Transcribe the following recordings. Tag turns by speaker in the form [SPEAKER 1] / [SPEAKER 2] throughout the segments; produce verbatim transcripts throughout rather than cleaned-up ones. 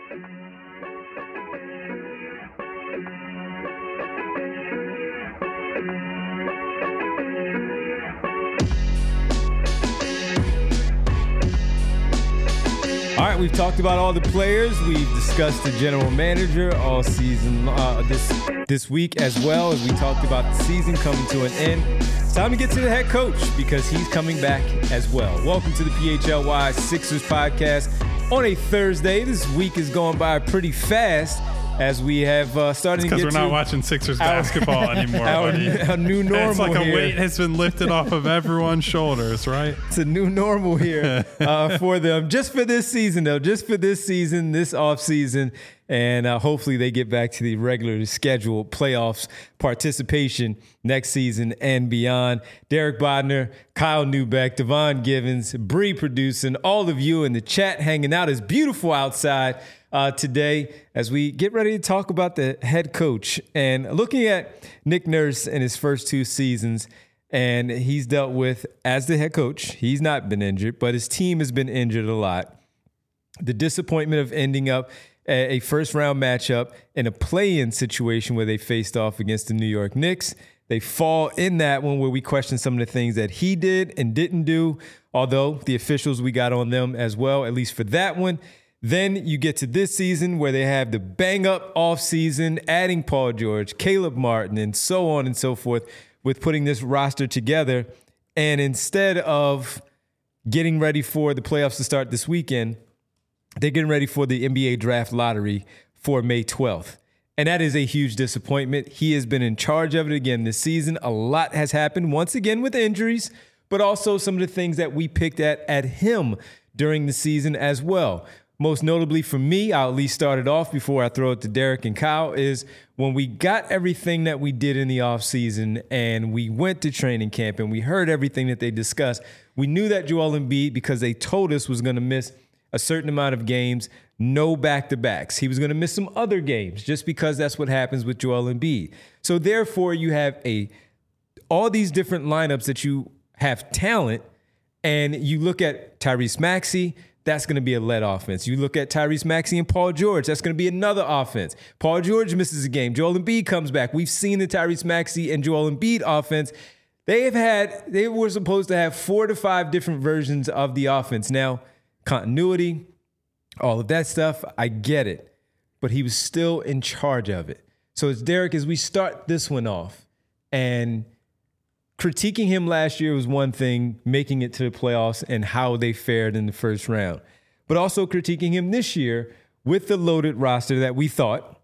[SPEAKER 1] All right, we've talked about all the players. We've discussed the general manager all season uh, this this week, as well as we talked about the season coming to an end. It's time to get to the head coach because he's coming back as well. Welcome to the P H L Y Sixers podcast on a Thursday. This week is going by pretty fast as we have uh, started to get to...
[SPEAKER 2] because we're not watching Sixers our, basketball anymore,
[SPEAKER 1] our,
[SPEAKER 2] buddy.
[SPEAKER 1] Our new normal
[SPEAKER 2] It's like
[SPEAKER 1] here.
[SPEAKER 2] a weight has been lifted off of everyone's shoulders, right?
[SPEAKER 1] It's a new normal here uh, for them. Just for this season, though. Just for this season, this offseason. And uh, hopefully they get back to the regularly scheduled playoffs participation next season and beyond. Derek Bodner, Kyle Neubeck, Devon Givens, Bree producing, all of you in the chat hanging out. It's beautiful outside uh, today as we get ready to talk about the head coach. And looking at Nick Nurse in his first two seasons, and he's dealt with, as the head coach, he's not been injured, but his team has been injured a lot. The disappointment of ending up a first-round matchup in a play-in situation where they faced off against the New York Knicks. They fall in that one where we question some of the things that he did and didn't do, although the officials, we got on them as well, at least for that one. Then you get to this season where they have the bang-up offseason, adding Paul George, Caleb Martin, and so on and so forth with putting this roster together. And instead of getting ready for the playoffs to start this weekend, they're getting ready for the N B A draft lottery for May twelfth. And that is a huge disappointment. He has been in charge of it again this season. A lot has happened, once again with injuries, but also some of the things that we picked at at him during the season as well. Most notably for me, I'll at least start it off before I throw it to Derek and Kyle, is when we got everything that we did in the offseason and we went to training camp and we heard everything that they discussed, we knew that Joel Embiid, because they told us, was going to miss a certain amount of games, no back-to-backs. He was going to miss some other games just because that's what happens with Joel Embiid. So therefore, you have a all these different lineups that you have talent, and you look at Tyrese Maxey, that's going to be a lead offense. You look at Tyrese Maxey and Paul George, that's going to be another offense. Paul George misses a game. Joel Embiid comes back. We've seen the Tyrese Maxey and Joel Embiid offense. They have had, they were supposed to have four to five different versions of the offense. Now, continuity, all of that stuff, I get it. But he was still in charge of it. So it's Derek, as we start this one off, and critiquing him last year was one thing, making it to the playoffs and how they fared in the first round. But also critiquing him this year with the loaded roster that we thought,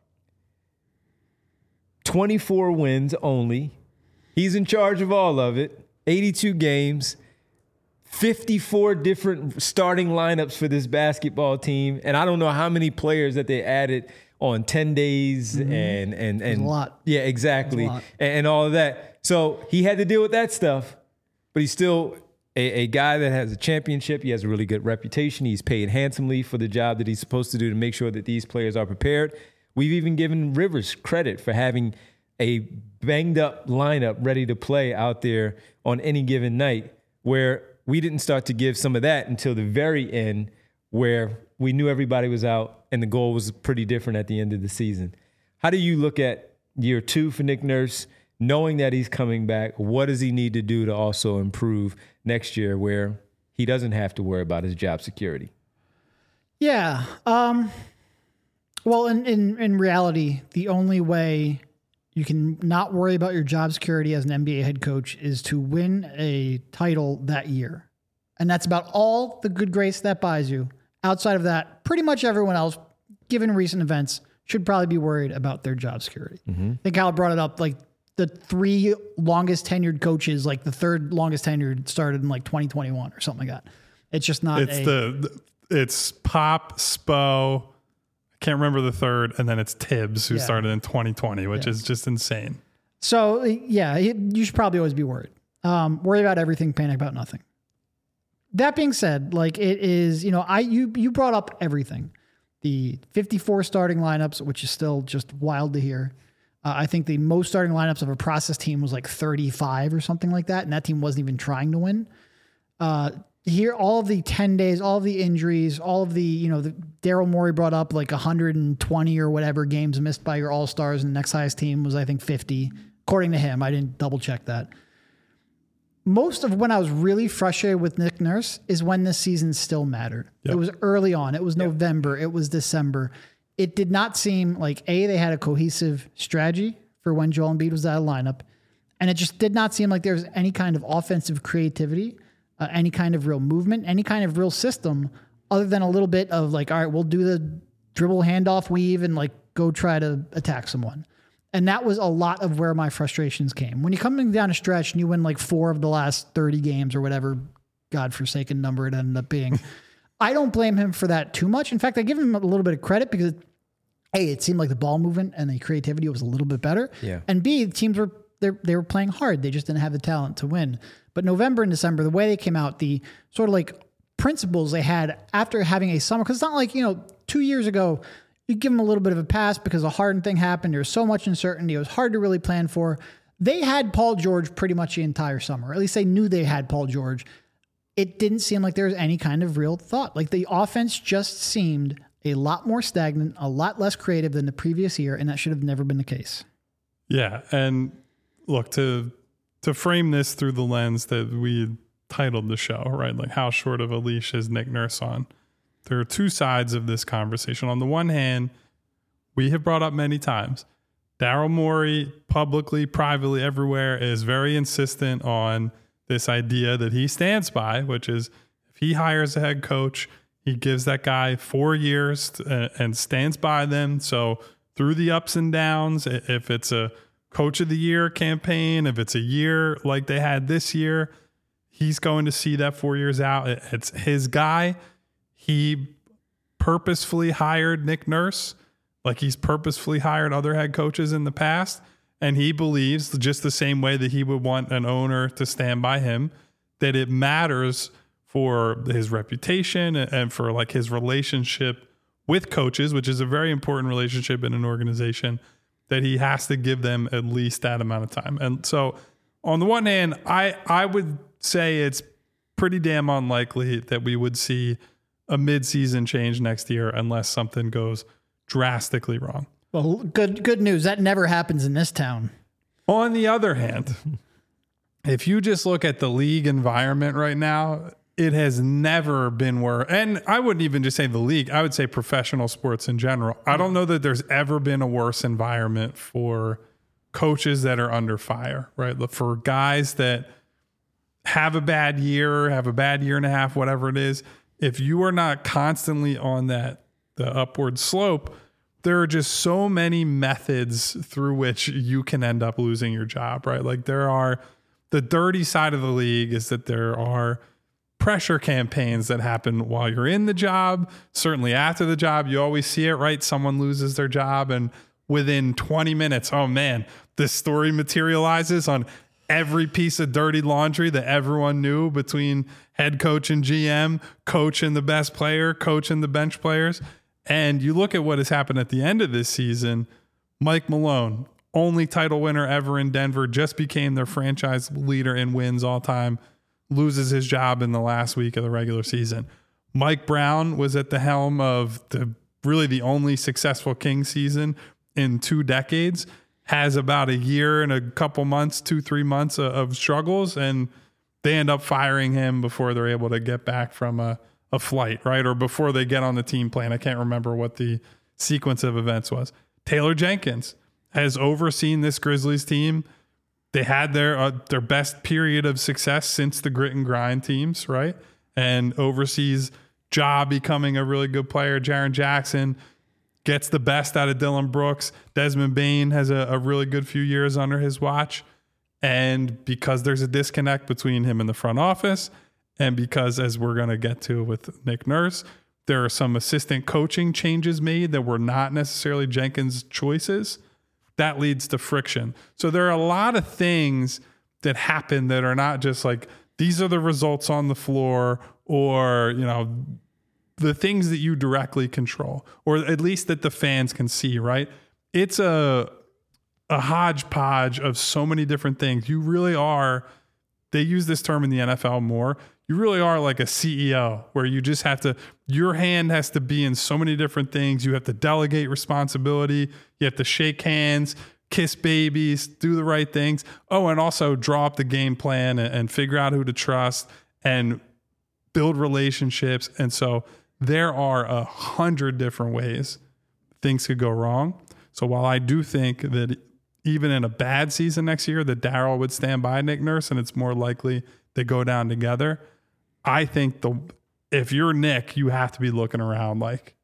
[SPEAKER 1] twenty-four wins only. He's in charge of all of it, eighty-two games, fifty-four different starting lineups for this basketball team. And I don't know how many players that they added on ten days mm-hmm. and, and, and
[SPEAKER 3] a lot.
[SPEAKER 1] Yeah, exactly. And, and all of that. So he had to deal with that stuff, but he's still a, a guy that has a championship. He has a really good reputation. He's paid handsomely for the job that he's supposed to do to make sure that these players are prepared. We've even given Rivers credit for having a banged up lineup ready to play out there on any given night, where we didn't start to give some of that until the very end, where we knew everybody was out and the goal was pretty different at the end of the season. How do you look at year two for Nick Nurse, knowing that he's coming back? What does he need to do to also improve next year where he doesn't have to worry about his job security?
[SPEAKER 3] Yeah. Um, well, in, in, in reality, the only way you can not worry about your job security as an N B A head coach is to win a title that year. And that's about all the good grace that buys you. Outside of that, pretty much everyone else, given recent events, should probably be worried about their job security. Mm-hmm. I think Kyle brought it up, like the three longest tenured coaches, like the third longest tenured started in like twenty twenty-one or something like that. It's just not
[SPEAKER 2] it's
[SPEAKER 3] a...
[SPEAKER 2] the it's Pop, Spo, I can't remember the third, and then it's Tibbs, who yeah. started in twenty twenty, which yeah. is just insane.
[SPEAKER 3] So, yeah, you should probably always be worried. Um, worry about everything, panic about nothing. That being said, like it is, you know, I you you brought up everything. The fifty-four starting lineups, which is still just wild to hear. Uh, I think the most starting lineups of a process team was like thirty-five or something like that, and that team wasn't even trying to win. Uh, here, all of the ten days, all of the injuries, all of the, you know, the Daryl Morey brought up like one hundred twenty or whatever games missed by your all-stars, and the next highest team was, I think, fifty, according to him. I didn't double check that. Most of when I was really frustrated with Nick Nurse is when this season still mattered. Yep. It was early on. It was yep. November. It was December. It did not seem like, A, they had a cohesive strategy for when Joel Embiid was out of lineup. And it just did not seem like there was any kind of offensive creativity, uh, any kind of real movement, any kind of real system other than a little bit of like, all right, we'll do the dribble handoff weave and like go try to attack someone. And that was a lot of where my frustrations came. When you're coming down a stretch and you win like four of the last thirty games or whatever godforsaken number it ended up being, I don't blame him for that too much. In fact, I give him a little bit of credit because, A, it seemed like the ball movement and the creativity was a little bit better.
[SPEAKER 1] Yeah.
[SPEAKER 3] And B, the teams were they were playing hard. They just didn't have the talent to win. But November and December, the way they came out, the sort of like principles they had after having a summer, because it's not like, you know, two years ago, you give them a little bit of a pass because a Harden thing happened. There was so much uncertainty. It was hard to really plan for. They had Paul George pretty much the entire summer, or at least they knew they had Paul George. It didn't seem like there was any kind of real thought. Like the offense just seemed a lot more stagnant, a lot less creative than the previous year, and that should have never been the case.
[SPEAKER 2] Yeah, and look, to to frame this through the lens that we titled the show, right? Like, how short of a leash is Nick Nurse on? There are two sides of this conversation. On the one hand, we have brought up many times, Daryl Morey, publicly, privately, everywhere, is very insistent on this idea that he stands by, which is if he hires a head coach, he gives that guy four years to, uh, and stands by them. So through the ups and downs, if it's a coach of the year campaign, if it's a year like they had this year, he's going to see that four years out. It's his guy. He purposefully hired Nick Nurse, like he's purposefully hired other head coaches in the past. And he believes, just the same way that he would want an owner to stand by him, that it matters for his reputation and for like his relationship with coaches, which is a very important relationship in an organization, that he has to give them at least that amount of time. And so on the one hand, I, I would say it's pretty damn unlikely that we would see a mid-season change next year unless something goes drastically wrong.
[SPEAKER 3] Well, good good news. That never happens in this town.
[SPEAKER 2] On the other hand, if you just look at the league environment right now, it has never been worse. And I wouldn't even just say the league. I would say professional sports in general. I don't know that there's ever been a worse environment for coaches that are under fire, right? For guys that have a bad year, have a bad year and a half, whatever it is. If you are not constantly on that the upward slope, there are just so many methods through which you can end up losing your job, right? Like there are, the dirty side of the league is that there are pressure campaigns that happen while you're in the job. Certainly after the job, you always see it, right? Someone loses their job and within twenty minutes, oh man, this story materializes on every piece of dirty laundry that everyone knew between head coach and G M, coach and the best player, coach and the bench players. And you look at what has happened at the end of this season. Mike Malone, only title winner ever in Denver, just became their franchise leader in wins all time, loses his job in the last week of the regular season. Mike Brown was at the helm of the really the only successful Kings season in two decades, has about a year and a couple months, two, three months of, of struggles, and they end up firing him before they're able to get back from a, a flight, right? Or before they get on the team plane. I can't remember what the sequence of events was. Taylor Jenkins has overseen this Grizzlies team. They had their uh, their best period of success since the grit and grind teams, right? And oversees Ja becoming a really good player. Jaren Jackson gets the best out of Dylan Brooks. Desmond Bane has a, a really good few years under his watch. And because there's a disconnect between him and the front office, and because, as we're going to get to with Nick Nurse, there are some assistant coaching changes made that were not necessarily Jenkins' choices, that leads to friction. So there are a lot of things that happen that are not just like, these are the results on the floor, or, you know, the things that you directly control, or at least that the fans can see, right? It's a a hodgepodge of so many different things. You really are, they use this term in the N F L more, you really are like a C E O where you just have to, your hand has to be in so many different things. You have to delegate responsibility. You have to shake hands, kiss babies, do the right things. Oh, and also draw up the game plan and, and figure out who to trust and build relationships. And so there are a hundred different ways things could go wrong. So while I do think that even in a bad season next year, that Daryl would stand by Nick Nurse and it's more likely they go down together, I think the if you're Nick, you have to be looking around like,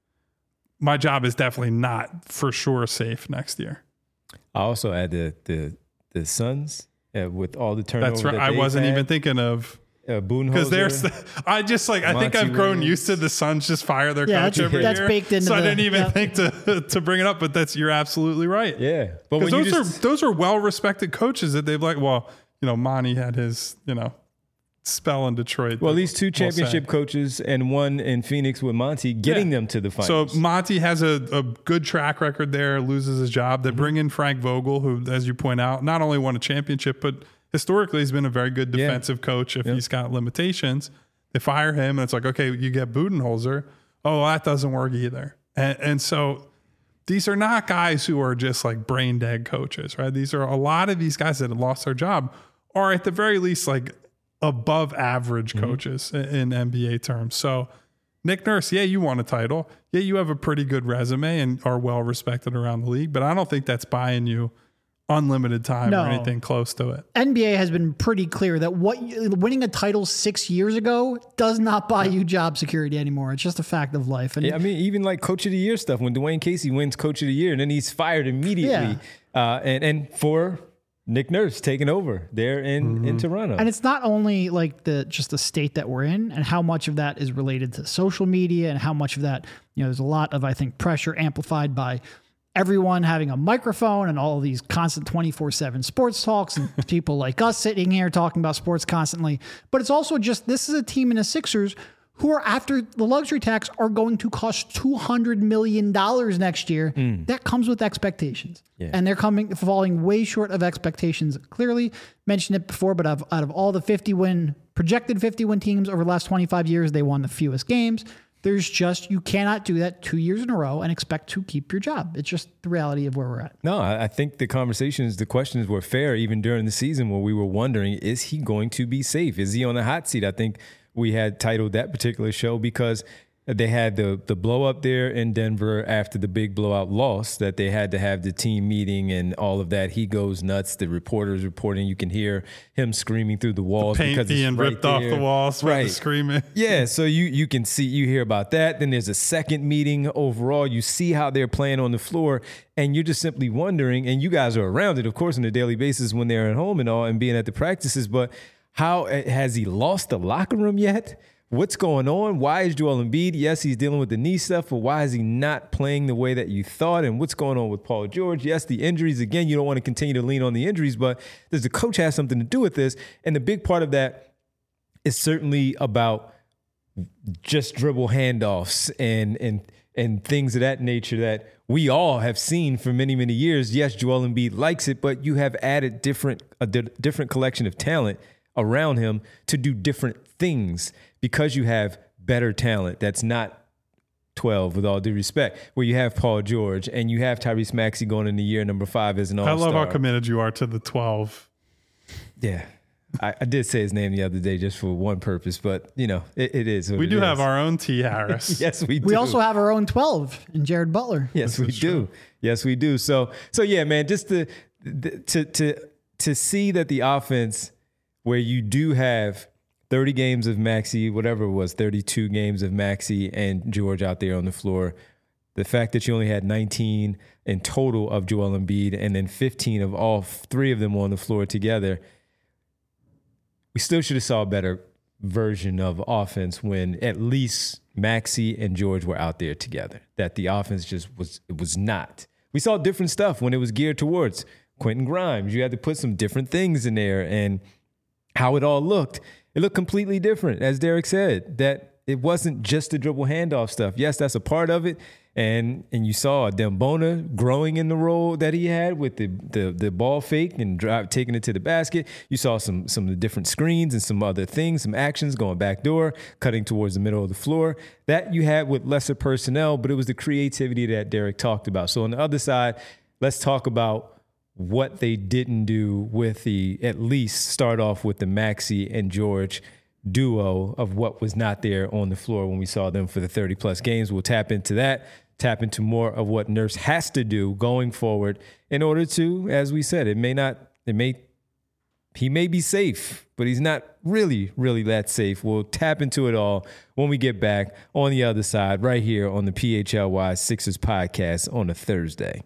[SPEAKER 2] my job is definitely not for sure safe next year.
[SPEAKER 1] I also add the the the Suns uh, with all the turnover.
[SPEAKER 2] That's right.
[SPEAKER 1] That
[SPEAKER 2] I wasn't
[SPEAKER 1] had.
[SPEAKER 2] even thinking of
[SPEAKER 1] Uh,
[SPEAKER 2] because there's, I just like I think
[SPEAKER 1] Monty
[SPEAKER 2] I've grown
[SPEAKER 1] Williams.
[SPEAKER 2] used to the Suns just fire their
[SPEAKER 3] Yeah,
[SPEAKER 2] coach
[SPEAKER 3] that's-
[SPEAKER 2] every
[SPEAKER 3] that's
[SPEAKER 2] year.
[SPEAKER 3] baked into
[SPEAKER 2] so I
[SPEAKER 3] the-
[SPEAKER 2] didn't even
[SPEAKER 3] yeah.
[SPEAKER 2] think to to bring it up, but that's you're absolutely right.
[SPEAKER 1] Yeah, but
[SPEAKER 2] Because
[SPEAKER 1] when you
[SPEAKER 2] those
[SPEAKER 1] just,
[SPEAKER 2] are those are well respected coaches that they've like. Well, you know, Monty had his you know spell in Detroit.
[SPEAKER 1] well, these two
[SPEAKER 2] we'll say.
[SPEAKER 1] championship coaches and one in Phoenix with Monty getting
[SPEAKER 2] Yeah.
[SPEAKER 1] them to the
[SPEAKER 2] So
[SPEAKER 1] finals.
[SPEAKER 2] Monty has a, a good track record there, loses his job. They bring in Frank Vogel, who, as you point out, not only won a championship, but historically he's been a very good
[SPEAKER 1] Yeah.
[SPEAKER 2] defensive coach if
[SPEAKER 1] Yep.
[SPEAKER 2] he's got limitations. They fire him, and it's like, okay, you get Budenholzer. Oh, that doesn't work either. And, and so these are not guys who are just like brain dead coaches, right? These are a lot of these guys that have lost their job are at the very least like above average
[SPEAKER 1] Mm-hmm.
[SPEAKER 2] coaches in, in N B A terms. So Nick Nurse, yeah, you won a title. Yeah, you have a pretty good resume and are well respected around the league, but I don't think that's buying you unlimited time
[SPEAKER 3] No.
[SPEAKER 2] or anything close to it.
[SPEAKER 3] N B A has been pretty clear that what winning a title six years ago does not buy you job security anymore. It's just a fact of life. And
[SPEAKER 1] yeah, I mean, even like Coach of the Year stuff when Dwayne Casey wins Coach of the Year and then he's fired immediately, uh, and and for Nick Nurse taking over there in in Toronto.
[SPEAKER 3] And it's not only like the just the state that we're in and how much of that is related to social media and how much of that, you know, there's a lot of, I think, pressure amplified by everyone having a microphone and all of these constant twenty-four seven sports talks and people like us sitting here talking about sports constantly. But it's also just, this is a team in the Sixers who are, after the luxury tax, are going to cost two hundred million dollars next year. That comes with expectations.
[SPEAKER 1] Yeah.
[SPEAKER 3] And they're coming, falling way short of expectations. Clearly mentioned it before, but out of, out of all the fifty win, projected fifty win teams over the last twenty-five years, they won the fewest games. There's just, you cannot do that two years in a row and expect to keep your job. It's just the reality of where we're at.
[SPEAKER 1] No, I I think the conversations, the questions were fair even during the season where we were wondering, is he going to be safe? Is he on the hot seat? I think we had titled that particular show because they had the the blow up there in Denver after the big blowout loss that they had to have the team meeting and all of that. He goes nuts. The reporters reporting, you can hear him screaming through the walls
[SPEAKER 2] Paint
[SPEAKER 1] because
[SPEAKER 2] being
[SPEAKER 1] it's right
[SPEAKER 2] ripped off
[SPEAKER 1] there.
[SPEAKER 2] the walls, right? The screaming.
[SPEAKER 1] Yeah, so you you can see, you hear about that. Then there's a second meeting overall. You see how they're playing on the floor, and you're just simply wondering, and you guys are around it, of course, on a daily basis when they're at home and all and being at the practices, but how has he lost the locker room yet? What's going on? Why is Joel Embiid? Yes, he's dealing with the knee stuff, but why is he not playing the way that you thought? And what's going on with Paul George? Yes, the injuries. Again, you don't want to continue to lean on the injuries, but does the coach have something to do with this? And the big part of that is certainly about just dribble handoffs and and and things of that nature that we all have seen for many, many years. Yes, Joel Embiid likes it, but you have added different a di- different collection of talent around him to do different things because you have better talent that's not twelve, with all due respect, where you have Paul George and you have Tyrese Maxey going into year number five as an
[SPEAKER 2] I
[SPEAKER 1] all-star.
[SPEAKER 2] love how committed you are to the twelve.
[SPEAKER 1] Yeah. I, I did say his name the other day just for one purpose, but, you know, it, it is what
[SPEAKER 2] We
[SPEAKER 1] it
[SPEAKER 2] do
[SPEAKER 1] is.
[SPEAKER 2] have our own T. Harris.
[SPEAKER 1] Yes, we do.
[SPEAKER 3] We also have our own twelve in Jared Butler.
[SPEAKER 1] Yes, we do. Yes, we do. So, so yeah, man, just to to to to see that the offense, where you do have thirty games of Maxey, whatever it was, thirty-two games of Maxey and George out there on the floor, the fact that you only had nineteen in total of Joel Embiid and then fifteen of all three of them on the floor together, we still should have saw a better version of offense when at least Maxey and George were out there together. That the offense just was it was not. We saw different stuff when it was geared towards Quentin Grimes. You had to put some different things in there, and how it all looked, it looked completely different. As Derek said, that it wasn't just the dribble handoff stuff. Yes, that's a part of it. And and you saw Dembona growing in the role that he had with the the, the ball fake and drive, taking it to the basket. You saw some some of the different screens and some other things, some actions going back door, cutting towards the middle of the floor. That you had with lesser personnel, but it was the creativity that Derek talked about. So on the other side, let's talk about what they didn't do with the, at least start off with the Maxey and George duo of what was not there on the floor when we saw them for the thirty plus games. We'll tap into that. Tap into more of what Nurse has to do going forward in order to, as we said, it may not, it may, he may be safe, but he's not really, really that safe. We'll tap into it all when we get back on the other side right here on the P H L Y Sixers podcast on a Thursday.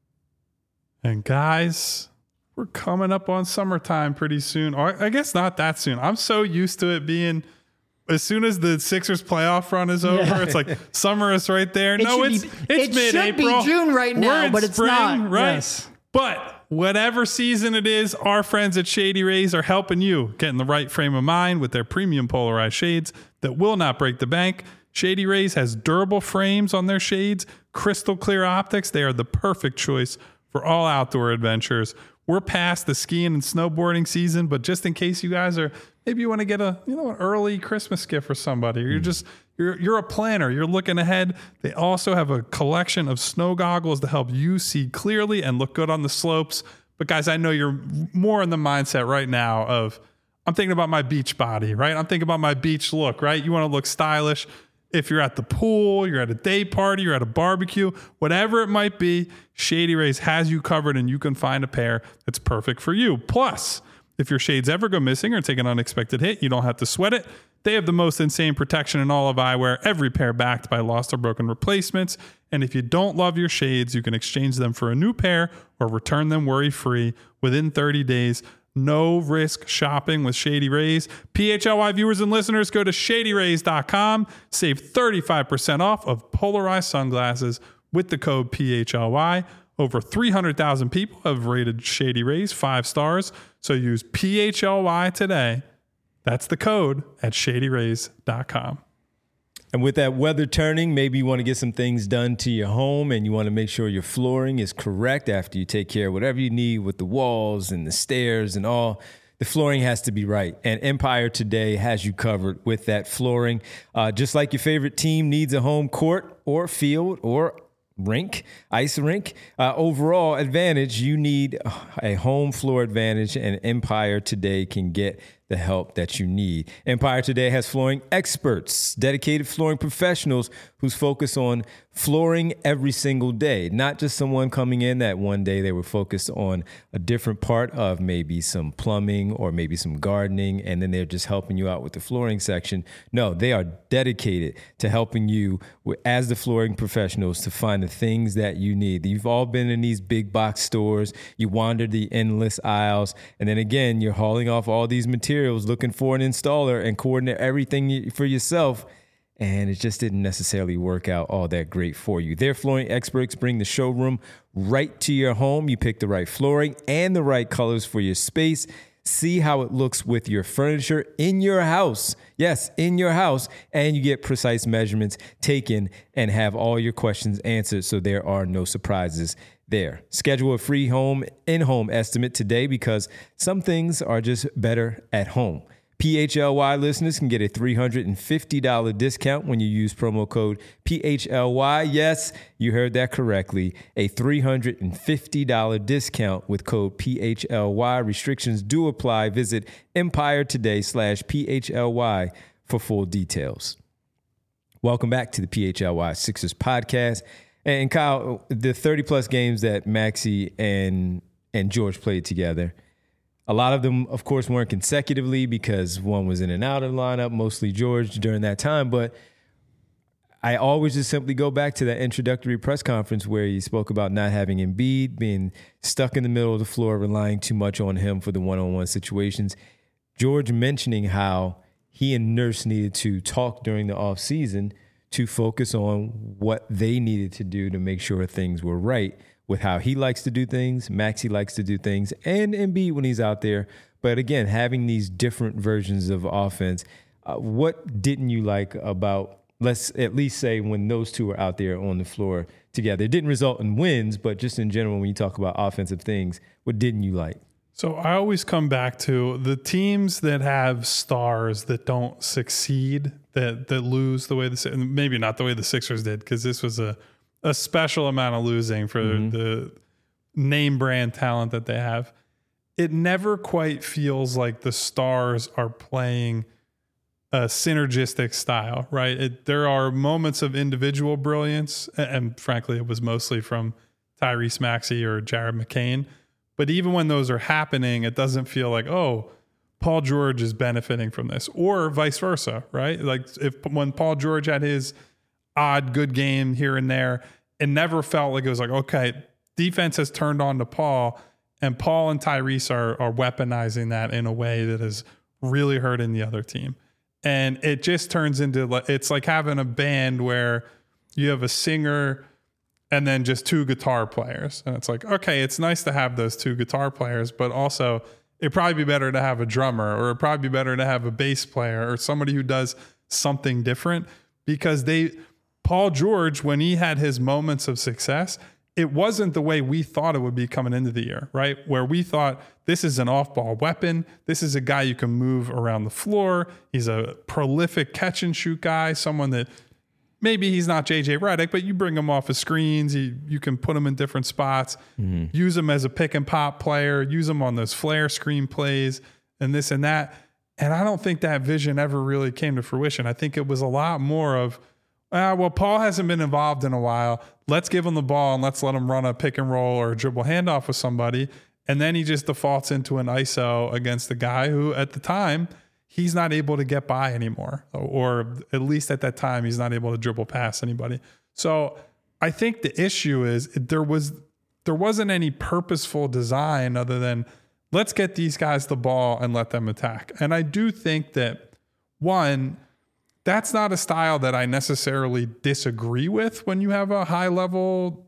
[SPEAKER 2] And guys, we're coming up on summertime pretty soon. Or I guess not that soon. I'm so used to it being as soon as the Sixers playoff run is over, yeah. It's like summer is right there.
[SPEAKER 3] It
[SPEAKER 2] no, it's
[SPEAKER 3] be,
[SPEAKER 2] it's
[SPEAKER 3] it
[SPEAKER 2] mid-April.
[SPEAKER 3] It should be June right now,
[SPEAKER 2] We're
[SPEAKER 3] but
[SPEAKER 2] in
[SPEAKER 3] it's
[SPEAKER 2] spring,
[SPEAKER 3] not.
[SPEAKER 2] Right?
[SPEAKER 3] Yes.
[SPEAKER 2] But whatever season it is, our friends at Shady Rays are helping you get in the right frame of mind with their premium polarized shades that will not break the bank. Shady Rays has durable frames on their shades, crystal clear optics. They are the perfect choice for all outdoor adventures. We're past the skiing and snowboarding season, but just in case you guys are, maybe you want to get a, you know, an early Christmas gift for somebody, or you're just, you're, you're a planner, you're looking ahead. They also have a collection of snow goggles to help you see clearly and look good on the slopes. But guys, I know you're more in the mindset right now of, I'm thinking about my beach body, right? I'm thinking about my beach look, right? You want to look stylish. If you're at the pool, you're at a day party, you're at a barbecue, whatever it might be, Shady Rays has you covered and you can find a pair that's perfect for you. Plus, if your shades ever go missing or take an unexpected hit, you don't have to sweat it. They have the most insane protection in all of eyewear, every pair backed by lost or broken replacements. And if you don't love your shades, you can exchange them for a new pair or return them worry-free within thirty days. No risk shopping with Shady Rays. P H L Y viewers and listeners, go to shady rays dot com. Save thirty-five percent off of polarized sunglasses with the code P H L Y. Over three hundred thousand people have rated Shady Rays five stars. So use P H L Y today. That's the code at shady rays dot com.
[SPEAKER 1] And with that weather turning, maybe you want to get some things done to your home and you want to make sure your flooring is correct after you take care of whatever you need with the walls and the stairs and all. The flooring has to be right. And Empire Today has you covered with that flooring. Uh, just like your favorite team needs a home court or field or rink, ice rink, uh, overall advantage, you need a home floor advantage, and Empire Today can get the help that you need. Empire Today has flooring experts, dedicated flooring professionals whose focus on flooring every single day, not just someone coming in that one day they were focused on a different part of maybe some plumbing or maybe some gardening, and then they're just helping you out with the flooring section. No, they are dedicated to helping you as the flooring professionals to find the things that you need. You've all been in these big box stores, you wandered the endless aisles, and then again, you're hauling off all these materials looking for an installer and coordinate everything for yourself, and it just didn't necessarily work out all that great for you. Their flooring experts bring the showroom right to your home. You pick the right flooring and the right colors for your space. See how it looks with your furniture in your house. Yes, in your house. And you get precise measurements taken and have all your questions answered so there are no surprises there. Schedule a free home in-home estimate today because some things are just better at home. P H L Y listeners can get a three hundred fifty dollars discount when you use promo code P H L Y. Yes, you heard that correctly. A three hundred fifty dollars discount with code P H L Y. Restrictions do apply. Visit Empire Today slash P H L Y for full details. Welcome back to the P H L Y Sixers podcast. And Kyle, the thirty plus games that Maxey and and George played together, a lot of them, of course, weren't consecutively because one was in and out of the lineup, mostly George during that time. But I always just simply go back to that introductory press conference where he spoke about not having Embiid, being stuck in the middle of the floor, relying too much on him for the one-on-one situations. George mentioning how he and Nurse needed to talk during the offseason to focus on what they needed to do to make sure things were right with how he likes to do things, Maxey likes to do things, and Embiid when he's out there. But again, having these different versions of offense uh, what didn't you like about, let's at least say, when those two were out there on the floor together? It didn't result in wins, but just in general, when you talk about offensive things, what didn't you like?
[SPEAKER 2] So I always come back to the teams that have stars that don't succeed, that that lose the way the maybe not the way the Sixers did, because this was a a special amount of losing for mm-hmm. the name brand talent that they have. It never quite feels like the stars are playing a synergistic style, right? It, there are moments of individual brilliance, and, and frankly, it was mostly from Tyrese Maxey or Jared McCain. But even when those are happening, it doesn't feel like, oh, Paul George is benefiting from this, or vice versa, right? Like if when Paul George had his odd good game here and there, it never felt like it was like, okay, defense has turned on to Paul, and Paul and Tyrese are, are weaponizing that in a way that is really hurting the other team. And it just turns into, it's like having a band where you have a singer and then just two guitar players. And it's like, okay, it's nice to have those two guitar players, but also it'd probably be better to have a drummer, or it'd probably be better to have a bass player or somebody who does something different, because they, Paul George, when he had his moments of success, it wasn't the way we thought it would be coming into the year, right? Where we thought this is an off-ball weapon. This is a guy you can move around the floor. He's a prolific catch and shoot guy, someone that maybe he's not J J Redick, but you bring him off of screens. You, you can put him in different spots, mm-hmm. use him as a pick and pop player, use him on those flare screen plays and this and that. And I don't think that vision ever really came to fruition. I think it was a lot more of, ah, well, Paul hasn't been involved in a while. Let's give him the ball and let's let him run a pick and roll or a dribble handoff with somebody. And then he just defaults into an I S O against the guy who at the time, he's not able to get by anymore, or at least at that time, he's not able to dribble past anybody. So I think the issue is there was, there wasn't any purposeful design other than let's get these guys the ball and let them attack. And I do think that, one, that's not a style that I necessarily disagree with when you have a high level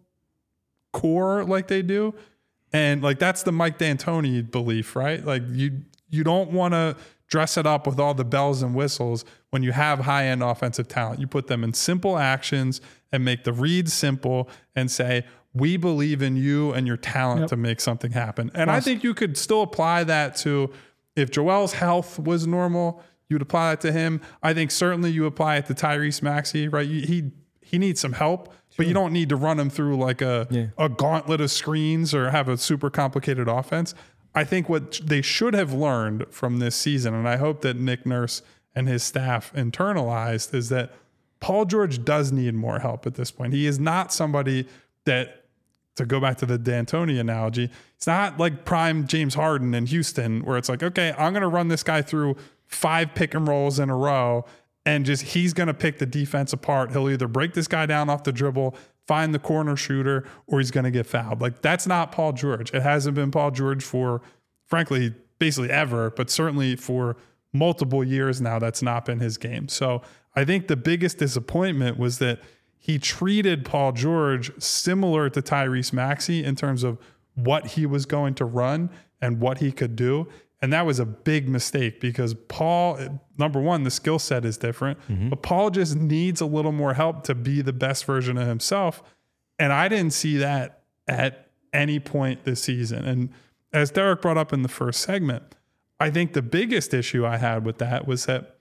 [SPEAKER 2] core like they do. And like, that's the Mike D'Antoni belief, right? Like you, you don't want to dress it up with all the bells and whistles when you have high-end offensive talent. You put them in simple actions and make the reads simple and say, we believe in you and your talent yep. to make something happen. And awesome. I think you could still apply that to, if Joel's health was normal, you'd apply that to him. I think certainly you apply it to Tyrese Maxey, right? He he needs some help, sure. but you don't need to run him through like a, yeah. a gauntlet of screens or have a super complicated offense. I think what they should have learned from this season, and I hope that Nick Nurse and his staff internalized, is that Paul George does need more help at this point. He is not somebody that, to go back to the D'Antoni analogy, it's not like prime James Harden in Houston where it's like, okay, I'm going to run this guy through five pick and rolls in a row and just he's going to pick the defense apart. He'll either break this guy down off the dribble, find the corner shooter, or he's going to get fouled. Like, that's not Paul George. It hasn't been Paul George for, frankly, basically ever, but certainly for multiple years now, that's not been his game. So I think the biggest disappointment was that he treated Paul George similar to Tyrese Maxey in terms of what he was going to run and what he could do. And that was a big mistake because Paul, number one, the skill set is different, mm-hmm. but Paul just needs a little more help to be the best version of himself. And I didn't see that at any point this season. And as Derek brought up in the first segment, I think the biggest issue I had with that was that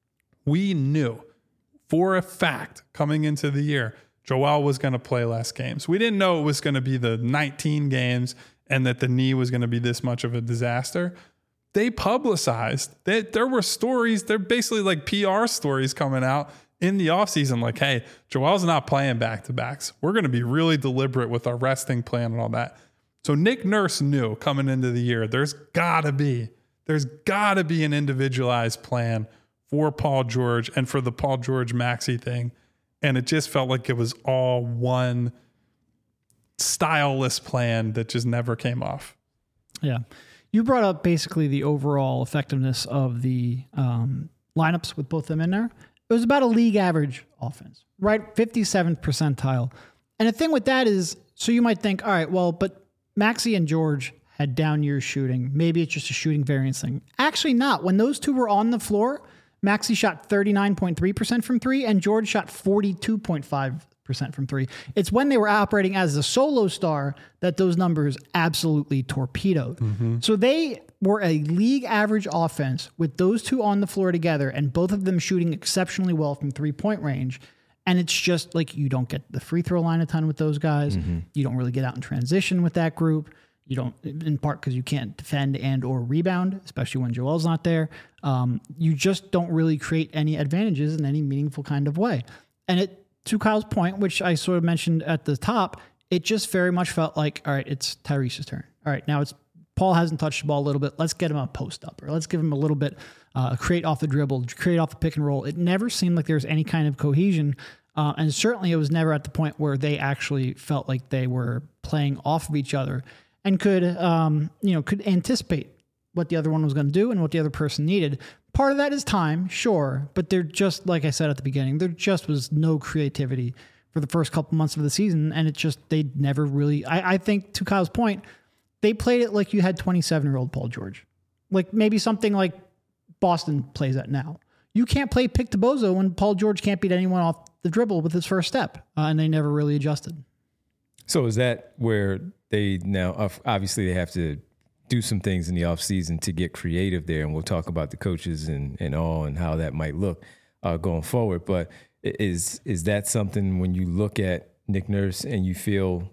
[SPEAKER 2] we knew for a fact coming into the year, Joel was going to play less games. We didn't know it was going to be the nineteen games and that the knee was going to be this much of a disaster. They publicized that there were stories, they're basically like P R stories coming out in the offseason, like, hey, Joel's not playing back-to-backs. We're going to be really deliberate with our resting plan and all that. So Nick Nurse knew coming into the year, there's got to be, there's got to be an individualized plan for Paul George and for the Paul George Maxey thing. And it just felt like it was all one styleless plan that just never came off.
[SPEAKER 3] Yeah. You brought up basically the overall effectiveness of the um, lineups with both them in there. It was about a league average offense, right? fifty-seventh percentile. And the thing with that is, so you might think, all right, well, but Maxey and George had down years shooting. Maybe it's just a shooting variance thing. Actually not. When those two were on the floor, Maxey shot thirty-nine point three percent from three, and George shot forty-two point five percent from three. It's when they were operating as a solo star that those numbers absolutely torpedoed. Mm-hmm. So they were a league average offense with those two on the floor together, and both of them shooting exceptionally well from three-point range. And it's just like you don't get the free throw line a ton with those guys. Mm-hmm. You don't really get out in transition with that group. You don't, in part because you can't defend and or rebound, especially when Joel's not there. Um, you just don't really create any advantages in any meaningful kind of way. And it, to Kyle's point, which I sort of mentioned at the top, it just very much felt like, all right, it's Tyrese's turn. All right, now it's Paul hasn't touched the ball a little bit. Let's get him a post up, or let's give him a little bit, uh, create off the dribble, create off the pick and roll. It never seemed like there was any kind of cohesion. Uh, and certainly it was never at the point where they actually felt like they were playing off of each other and could, um, you know, could anticipate what the other one was going to do and what the other person needed. Part of that is time, sure, but there just, like I said at the beginning, there just was no creativity for the first couple months of the season, and it just, they never really, I, I think to Kyle's point, they played it like you had twenty-seven-year-old Paul George. Like maybe something like Boston plays at now. You can't play pick to bozo when Paul George can't beat anyone off the dribble with his first step, uh, and they never really adjusted.
[SPEAKER 1] So is that where they now, obviously they have to do some things in the offseason to get creative there, and we'll talk about the coaches and, and all and how that might look uh, going forward. But is is that something when you look at Nick Nurse and you feel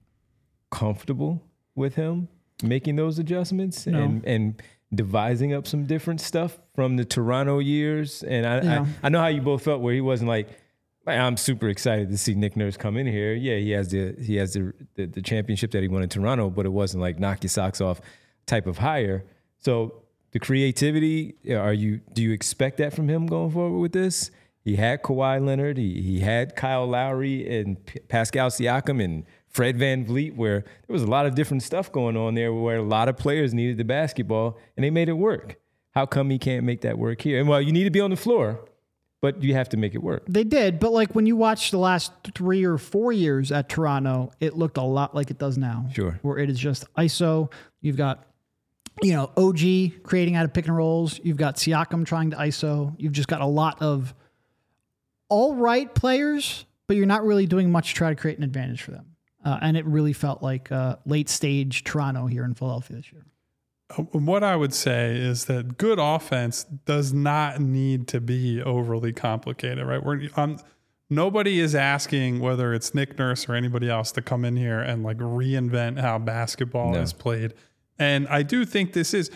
[SPEAKER 1] comfortable with him making those adjustments
[SPEAKER 3] No.
[SPEAKER 1] and and devising up some different stuff from the Toronto years? And I,
[SPEAKER 3] Yeah.
[SPEAKER 1] I I know how you both felt where he wasn't like, I'm super excited to see Nick Nurse come in here. Yeah, he has the he has the, the the championship that he won in Toronto, but it wasn't like knock your socks off type of hire. So the creativity, are you do you expect that from him going forward with this? He had Kawhi Leonard, he he had Kyle Lowry and P- Pascal Siakam and Fred VanVleet, where there was a lot of different stuff going on there where a lot of players needed the basketball and they made it work. How come he can't make that work here? And well, you need to be on the floor, but you have to make it work.
[SPEAKER 3] They did, but like when you watch the last three or four years at Toronto, it looked a lot like it does now.
[SPEAKER 1] Sure.
[SPEAKER 3] Where it is just I S O. You've got, you know, O G creating out of pick and rolls. You've got Siakam trying to I S O. You've just got a lot of all right players, but you're not really doing much to try to create an advantage for them. Uh, and it really felt like uh, late stage Toronto here in Philadelphia this year.
[SPEAKER 2] What I would say is that good offense does not need to be overly complicated, right? We're, um, nobody is asking whether it's Nick Nurse or anybody else to come in here and like reinvent how basketball
[SPEAKER 1] No.
[SPEAKER 2] is played. And I do think this is,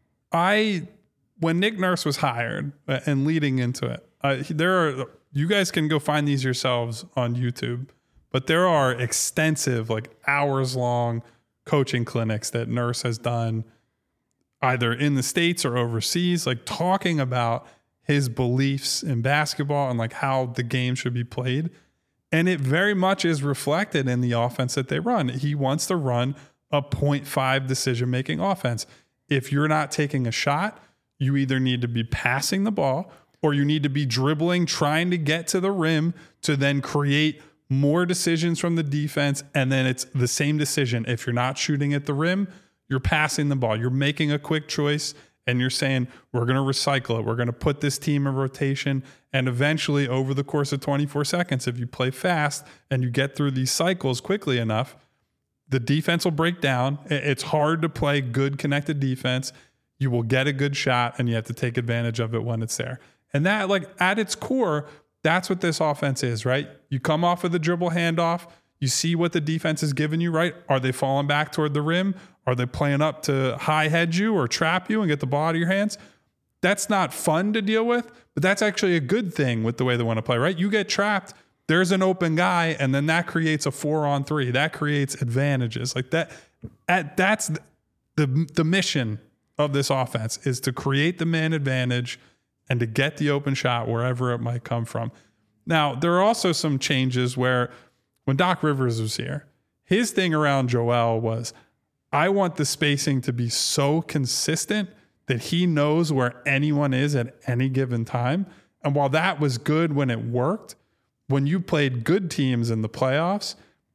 [SPEAKER 2] I, when Nick Nurse was hired uh, and leading into it, uh, there are, you guys can go find these yourselves on YouTube, but there are extensive, like hours long coaching clinics that Nurse has done either in the States or overseas, like talking about his beliefs in basketball and like how the game should be played. And it very much is reflected in the offense that they run. He wants to run a point five decision-making offense. If you're not taking a shot, you either need to be passing the ball or you need to be dribbling, trying to get to the rim to then create more decisions from the defense. And then it's the same decision. If you're not shooting at the rim, you're passing the ball. You're making a quick choice and you're saying, we're going to recycle it. We're going to put this team in rotation. And eventually over the course of twenty-four seconds, if you play fast and you get through these cycles quickly enough, the defense will break down. It's hard to play good connected defense. You will get a good shot and you have to take advantage of it when it's there. And that, like at its core, that's what this offense is, right? You come off of the dribble handoff. You see what the defense is giving you, right? Are they falling back toward the rim? Are they playing up to high head you or trap you and get the ball out of your hands? That's not fun to deal with, but that's actually a good thing with the way they want to play, right? You get trapped, there's an open guy, and then that creates a four on three. That creates advantages. Like that, at, that's the, the mission of this offense is to create the man advantage and to get the open shot wherever it might come from. Now, there are also some changes where when Doc Rivers was here, his thing around Joel was, I want the spacing to be so consistent that he knows where anyone is at any given time. And while that was good when it worked, when you played good teams in the playoffs,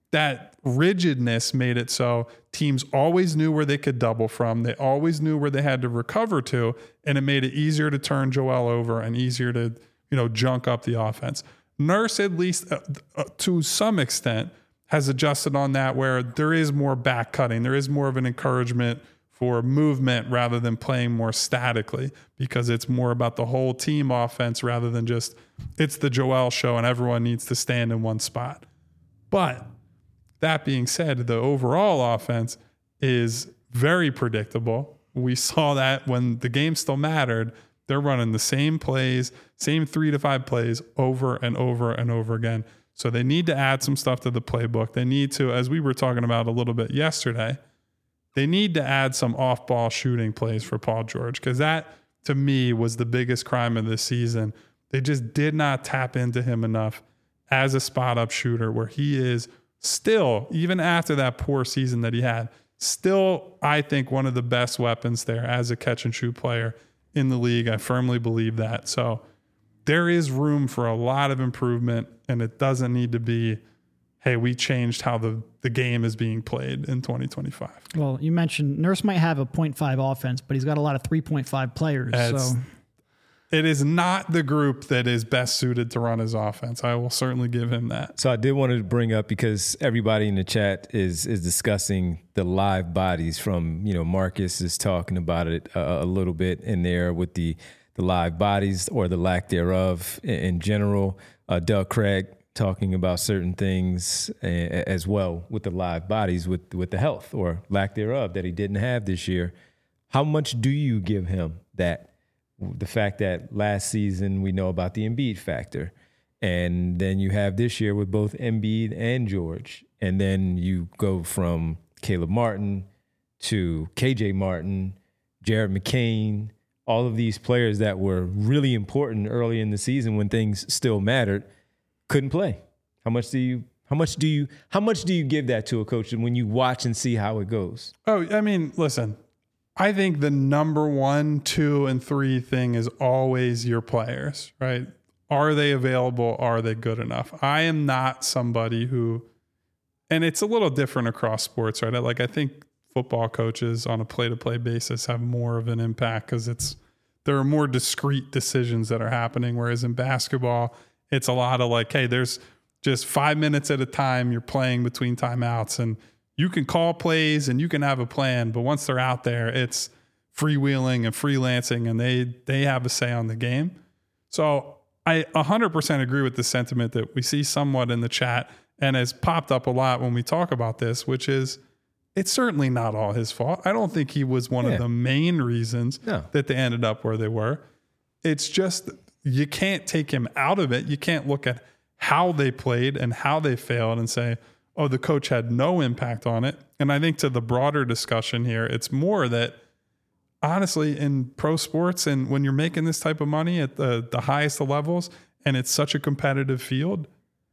[SPEAKER 2] that rigidness made it so teams always knew where they could double from. They always knew where they had to recover to, and it made it easier to turn Joel over and easier to, you know, junk up the offense. Nurse, at least uh, uh, to some extent, has adjusted on that, where there is more back cutting. There is more of an encouragement for movement rather than playing more statically, because it's more about the whole team offense rather than just it's the Joel show and everyone needs to stand in one spot. But that being said, the overall offense is very predictable. We saw that when the game still mattered. They're running the same plays, same three to five plays over and over and over again. So they need to add some stuff to the playbook. They need to, as we were talking about a little bit yesterday, they need to add some off-ball shooting plays for Paul George, because that, to me, was the biggest crime of this season. They just did not tap into him enough as a spot-up shooter, where he is still, even after that poor season that he had, still, I think, one of the best weapons there as a catch-and-shoot player in the league. I firmly believe that. So there is room for a lot of improvement, and it doesn't need to be, hey, we changed how the, the game is being played in twenty twenty-five.
[SPEAKER 3] Well, you mentioned Nurse might have a point five offense, but he's got a lot of three point five players.
[SPEAKER 2] It's,
[SPEAKER 3] so
[SPEAKER 2] it is not the group that is best suited to run his offense. I will certainly give him that.
[SPEAKER 1] So I did want to bring up, because everybody in the chat is is discussing the live bodies from, you know, Marcus is talking about it a, a little bit in there with the, the live bodies or the lack thereof in, in general. Uh, Doug Craig talking about certain things a, as well with the live bodies, with, with the health or lack thereof that he didn't have this year. How much do you give him that? The fact that last season we know about the Embiid factor, and then you have this year with both Embiid and George, and then you go from Caleb Martin to K J Martin, Jared McCain, all of these players that were really important early in the season when things still mattered, couldn't play. How much do you how much do you how much do you give that to a coach when you watch and see how it goes?
[SPEAKER 2] Oh, I mean, listen. I think the number one, two, and three thing is always your players, right? Are they available? Are they good enough? I am not somebody who, and it's a little different across sports, right? Like, I think football coaches on a play-to-play basis have more of an impact because it's there are more discrete decisions that are happening. Whereas in basketball, it's a lot of like, hey, there's just five minutes at a time you're playing between timeouts, and you can call plays and you can have a plan, but once they're out there, it's freewheeling and freelancing, and they they have a say on the game. So I one hundred percent agree with the sentiment that we see somewhat in the chat and has popped up a lot when we talk about this, which is it's certainly not all his fault. I don't think he was one yeah. of the main reasons no. that they ended up where they were. It's just you can't take him out of it. You can't look at how they played and how they failed and say, oh, the coach had no impact on it. And I think to the broader discussion here, it's more that honestly in pro sports and when you're making this type of money at the, the highest of levels and it's such a competitive field,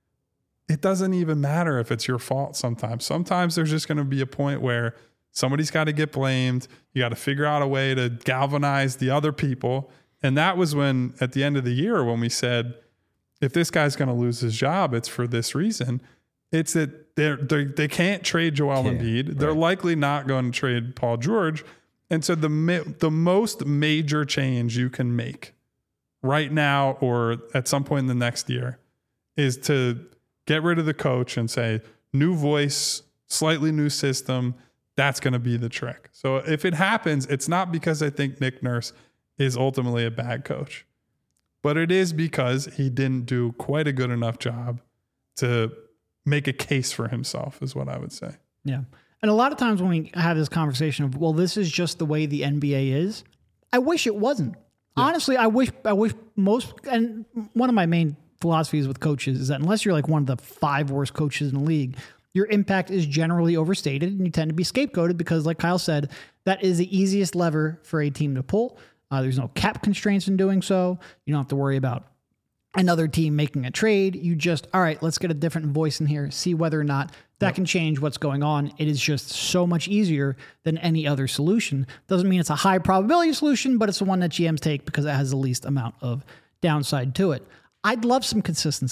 [SPEAKER 2] it doesn't even matter if it's your fault sometimes. Sometimes there's just going to be a point where somebody's got to get blamed. You got to figure out a way to galvanize the other people. And that was when, at the end of the year, when we said, if this guy's going to lose his job, it's for this reason. It's that they're, they're, they can't trade Joel yeah, Embiid. Right. They're likely not going to trade Paul George. And so the the most major change you can make right now or at some point in the next year is to get rid of the coach and say, new voice, slightly new system. That's going to be the trick. So if it happens, it's not because I think Nick Nurse is ultimately a bad coach, but it is because he didn't do quite a good enough job to make a case for himself is what I would say.
[SPEAKER 3] Yeah. And a lot of times when we have this conversation of, well, this is just the way the N B A is, I wish it wasn't. Yeah. Honestly, I wish, I wish most, and one of my main philosophies with coaches is that unless you're like one of the five worst coaches in the league, your impact is generally overstated and you tend to be scapegoated because, like Kyle said, that is the easiest lever for a team to pull. Uh, there's no cap constraints in doing so. You don't have to worry about another team making a trade. You just, all right, let's get a different voice in here, see whether or not that yep. can change what's going on. It is just so much easier than any other solution. Doesn't mean it's a high probability solution, but it's the one that G Ms take because it has the least amount of downside to it. I'd love some consistency.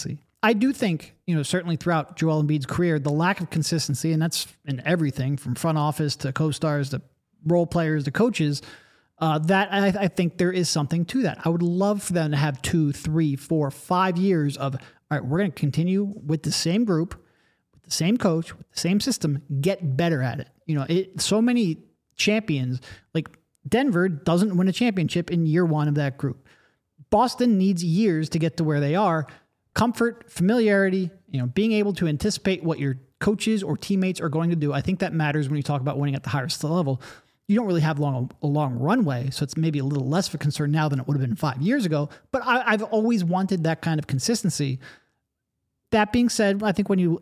[SPEAKER 3] I do think, you know, certainly throughout Joel Embiid's career, the lack of consistency, and that's in everything from front office to co-stars to role players to coaches, uh, that I, I think there is something to that. I would love for them to have two, three, four, five years of, all right, we're going to continue with the same group, with the same coach, with the same system, get better at it. You know, it, so many champions, like Denver doesn't win a championship in year one of that group. Boston needs years to get to where they are. Comfort, familiarity, you know, being able to anticipate what your coaches or teammates are going to do. I think that matters when you talk about winning at the highest level. You don't really have long, a long runway, so it's maybe a little less of a concern now than it would have been five years ago. But I, I've always wanted that kind of consistency. That being said, I think when you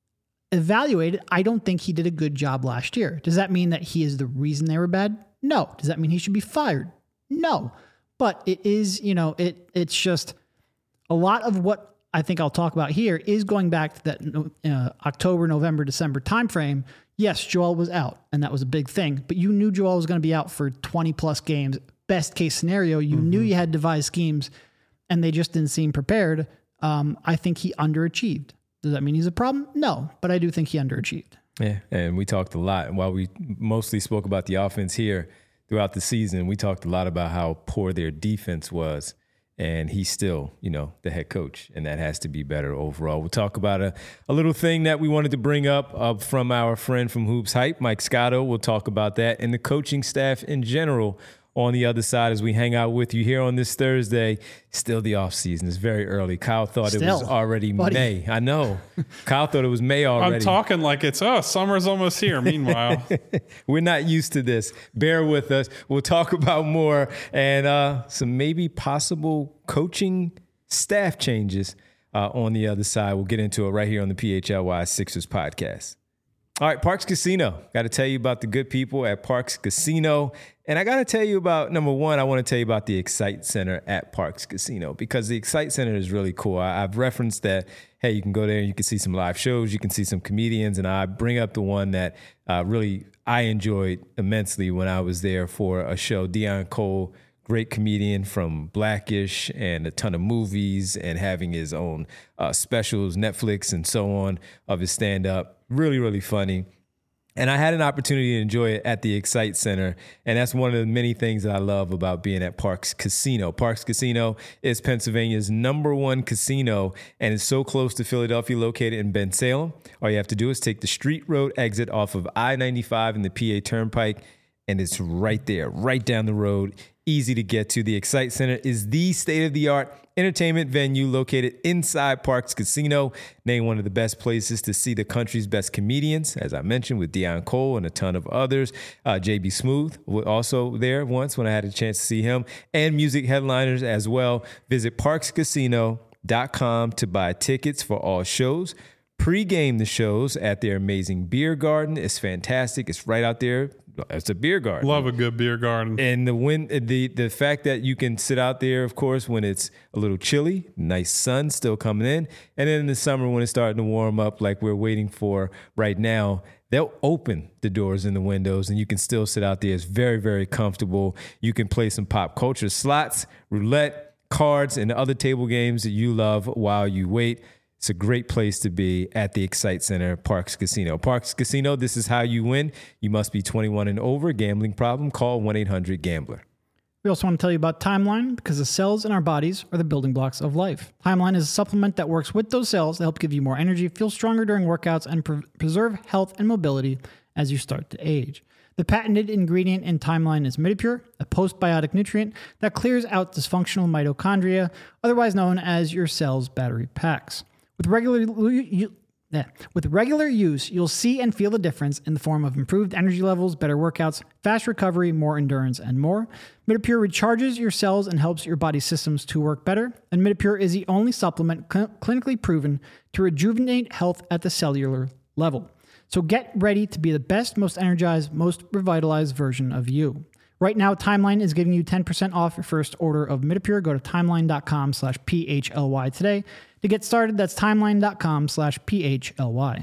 [SPEAKER 3] evaluate it, I don't think he did a good job last year. Does that mean that he is the reason they were bad? No. Does that mean he should be fired? No. But it is, you know, it it's just a lot of what I think I'll talk about here is going back to that uh, October, November, December timeframe. Yes, Joel was out, and that was a big thing. But you knew Joel was going to be out for twenty plus games. Best case scenario, you mm-hmm. knew you had devised schemes, and they just didn't seem prepared. Um, I think he underachieved. Does that mean he's a problem? No, but I do think he underachieved.
[SPEAKER 1] Yeah, and we talked a lot. While we mostly spoke about the offense here throughout the season, we talked a lot about how poor their defense was. And he's still, you know, the head coach, and that has to be better overall. We'll talk about a, a little thing that we wanted to bring up uh, from our friend from Hoops Hype, Mike Scotto. We'll talk about that and the coaching staff in general on the other side as we hang out with you here on this Thursday. Still the offseason. It's very early. Kyle thought Still, it was already buddy. May. I know. Kyle thought it was May already.
[SPEAKER 2] I'm talking like it's, oh, summer's almost here. Meanwhile.
[SPEAKER 1] We're not used to this. Bear with us. We'll talk about more and uh, some maybe possible coaching staff changes uh, on the other side. We'll get into it right here on the P H L Y Sixers podcast. All right, Parx Casino. Got to tell you about the good people at Parx Casino. And I got to tell you about, number one, I want to tell you about the Excite Center at Parx Casino, because the Excite Center is really cool. I, I've referenced that, hey, you can go there and you can see some live shows, you can see some comedians, and I bring up the one that uh, really I enjoyed immensely when I was there for a show. Deon Cole, great comedian from Blackish and a ton of movies and having his own uh, specials, Netflix and so on, of his stand-up. Really, really funny. And I had an opportunity to enjoy it at the Excite Center. And that's one of the many things that I love about being at Parx Casino. Parx Casino is Pennsylvania's number one casino and is so close to Philadelphia, located in Bensalem. All you have to do is take the Street Road exit off of I ninety-five and the P A Turnpike, and it's right there, right down the road. Easy to get to. The Excite Center is the state-of-the-art entertainment venue located inside Parx Casino, named one of the best places to see the country's best comedians, as I mentioned, with Deon Cole and a ton of others. Uh, J B Smooth was also there once when I had a chance to see him, and music headliners as well. Visit parx casino dot com to buy tickets for all shows. Pre-game the shows at their amazing beer garden. It's fantastic. It's right out there. It's a beer garden.
[SPEAKER 2] Love a good beer garden.
[SPEAKER 1] And the wind, the the fact that you can sit out there, of course, when it's a little chilly, nice sun still coming in. And then in the summer when it's starting to warm up like we're waiting for right now, they'll open the doors and the windows and you can still sit out there. It's very, very comfortable. You can play some pop culture slots, roulette, cards, and other table games that you love while you wait. It's a great place to be at the Excite Center, Parx Casino. Parx Casino, this is how you win. You must be twenty-one and over. Gambling problem? Call one eight hundred gambler.
[SPEAKER 3] We also want to tell you about Timeline, because the cells in our bodies are the building blocks of life. Timeline is a supplement that works with those cells to help give you more energy, feel stronger during workouts, and pre- preserve health and mobility as you start to age. The patented ingredient in Timeline is Midipure, a postbiotic nutrient that clears out dysfunctional mitochondria, otherwise known as your cell's battery packs. With regular, you, yeah, with regular use, you'll see and feel the difference in the form of improved energy levels, better workouts, fast recovery, more endurance, and more. Midipure recharges your cells and helps your body's systems to work better. And Midipure is the only supplement cl- clinically proven to rejuvenate health at the cellular level. So get ready to be the best, most energized, most revitalized version of you. Right now, Timeline is giving you ten percent off your first order of Midipure. Go to timeline.com slash PHLY today. To get started, that's timeline.com slash PHLY.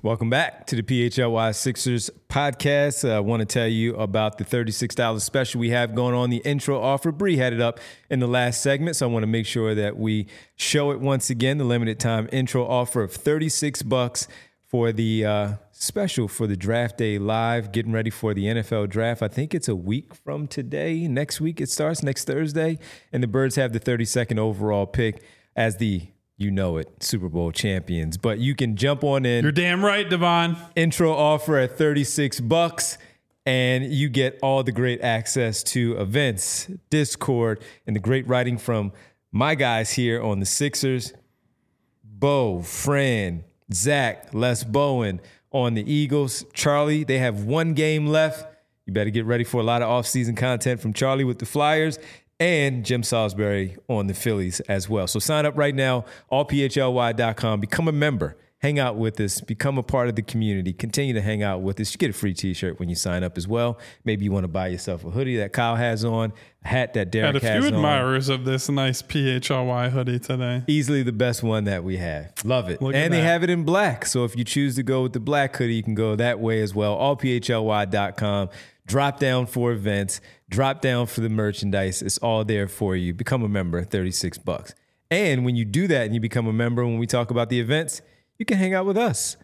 [SPEAKER 1] Welcome back to the P H L Y Sixers podcast. Uh, I want to tell you about the thirty-six dollars special we have going on, the intro offer. Bree had it up in the last segment, so I want to make sure that we show it once again. The limited time intro offer of thirty-six bucks for the uh, special for the Draft Day Live, getting ready for the N F L Draft. I think it's a week from today. Next week it starts, next Thursday, and the Birds have the thirty-second overall pick as the You know it, Super Bowl champions. But you can jump on in.
[SPEAKER 2] You're damn right, Devon.
[SPEAKER 1] Intro offer at thirty-six bucks, and you get all the great access to events, Discord, and the great writing from my guys here on the Sixers. Bo, Fran, Zach, Les Bowen on the Eagles. Charlie, they have one game left. You better get ready for a lot of offseason content from Charlie with the Flyers. And Jim Salisbury on the Phillies as well. So sign up right now, all P H L Y dot com. Become a member. Hang out with us. Become a part of the community. Continue to hang out with us. You get a free T-shirt when you sign up as well. Maybe you want to buy yourself a hoodie that Kyle has on, a hat that Derek has on.
[SPEAKER 2] Had a few admirers of this nice P H L Y hoodie today.
[SPEAKER 1] Easily the best one that we have. Love it.
[SPEAKER 2] Look
[SPEAKER 1] and they
[SPEAKER 2] that.
[SPEAKER 1] have it in black. So if you choose to go with the black hoodie, you can go that way as well. all P H L Y dot com. Drop down for events, drop down for the merchandise. It's all there for you. Become a member, thirty-six bucks. And when you do that and you become a member, when we talk about the events, you can hang out with us.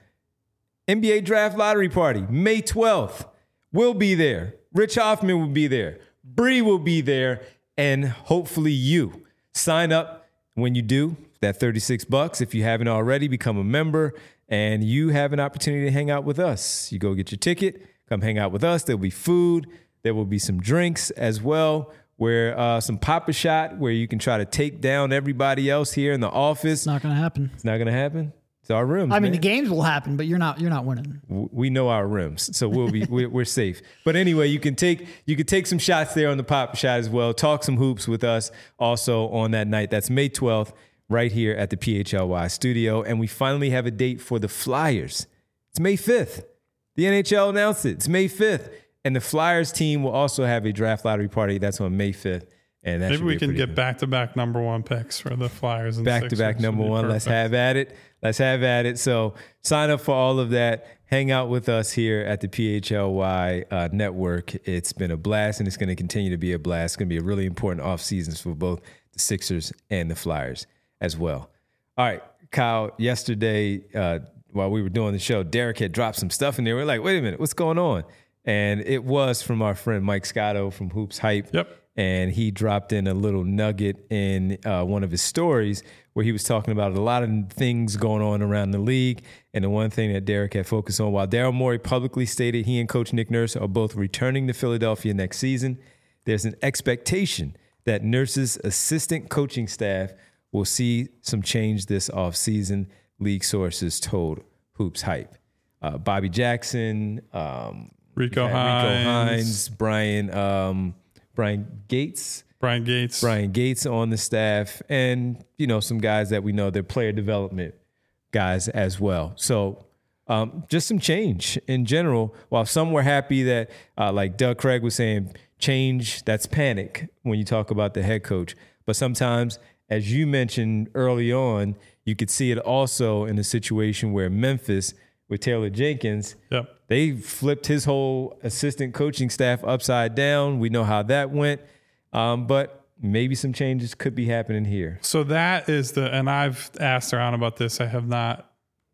[SPEAKER 1] N B A Draft Lottery Party, May twelfth. We'll be there. Rich Hoffman will be there. Bree will be there. And hopefully you sign up. When you do, that thirty-six bucks, if you haven't already, become a member. And you have an opportunity to hang out with us. You go get your ticket. Come hang out with us. There'll be food. There will be some drinks as well, where uh, some Pop-A-Shot, where you can try to take down everybody else here in the office.
[SPEAKER 3] It's not going to happen.
[SPEAKER 1] It's not going to happen. It's our rooms.
[SPEAKER 3] I mean,
[SPEAKER 1] man.
[SPEAKER 3] the games will happen, but you're not you're not winning.
[SPEAKER 1] We know our rims, so we'll be we're, we're safe. But anyway, you can take you can take some shots there on the Pop-A-Shot as well. Talk some hoops with us also on that night. That's May twelfth, right here at the P H L Y studio, and we finally have a date for the Flyers. It's May fifth. The N H L announced it. It's May fifth. And the Flyers team will also have a draft lottery party. That's on May fifth. And that
[SPEAKER 2] Maybe we can get
[SPEAKER 1] good.
[SPEAKER 2] back-to-back number one picks for the Flyers. And
[SPEAKER 1] Back-to-back
[SPEAKER 2] Sixers.
[SPEAKER 1] number one.
[SPEAKER 2] Perfect.
[SPEAKER 1] Let's have at it. Let's have at it. So sign up for all of that. Hang out with us here at the P H L Y uh, network. It's been a blast, and it's going to continue to be a blast. It's going to be a really important offseason for both the Sixers and the Flyers as well. All right, Kyle, yesterday, uh, while we were doing the show, Derek had dropped some stuff in there. We're like, wait a minute, what's going on? And it was from our friend Mike Scotto from Hoops Hype.
[SPEAKER 2] Yep.
[SPEAKER 1] And he dropped in a little nugget in uh, one of his stories where he was talking about a lot of things going on around the league. And the one thing that Derek had focused on, while Daryl Morey publicly stated he and Coach Nick Nurse are both returning to Philadelphia next season, there's an expectation that Nurse's assistant coaching staff will see some change this offseason, league sources told Hoops Hype. Uh, Bobby Jackson, um,
[SPEAKER 2] Rico
[SPEAKER 1] Rico
[SPEAKER 2] Hines,
[SPEAKER 1] Hines, Brian, um, Brian Gates,
[SPEAKER 2] Brian Gates,
[SPEAKER 1] Brian Gates on the staff, and you know some guys that we know they're player development guys as well. So um, just some change in general. While some were happy that, uh, like Doug Craig was saying, change, that's panic when you talk about the head coach. But sometimes, as you mentioned early on, you could see it also in a situation where Memphis with Taylor Jenkins,
[SPEAKER 2] yep.
[SPEAKER 1] they flipped his whole assistant coaching staff upside down. We know how that went. Um, but maybe some changes could be happening here.
[SPEAKER 2] So that is the, and I've asked around about this. I have not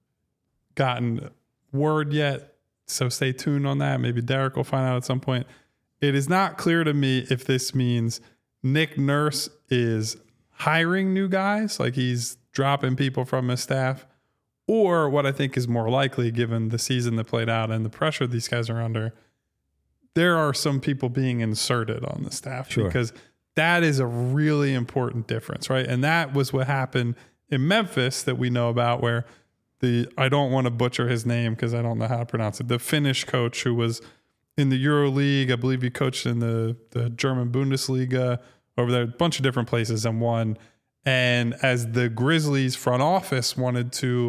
[SPEAKER 2] gotten word yet. So stay tuned on that. Maybe Derek will find out at some point. It is not clear to me if this means Nick Nurse is hiring new guys, like he's dropping people from his staff, or what I think is more likely, given the season that played out and the pressure these guys are under, there are some people being inserted on the staff.
[SPEAKER 1] Sure.
[SPEAKER 2] Because that is a really important difference, right? And that was what happened in Memphis that we know about, where the, I don't want to butcher his name because I don't know how to pronounce it, the Finnish coach who was in the Euro League, I believe he coached in the, the German Bundesliga, over there, a bunch of different places and won. And as the Grizzlies front office wanted to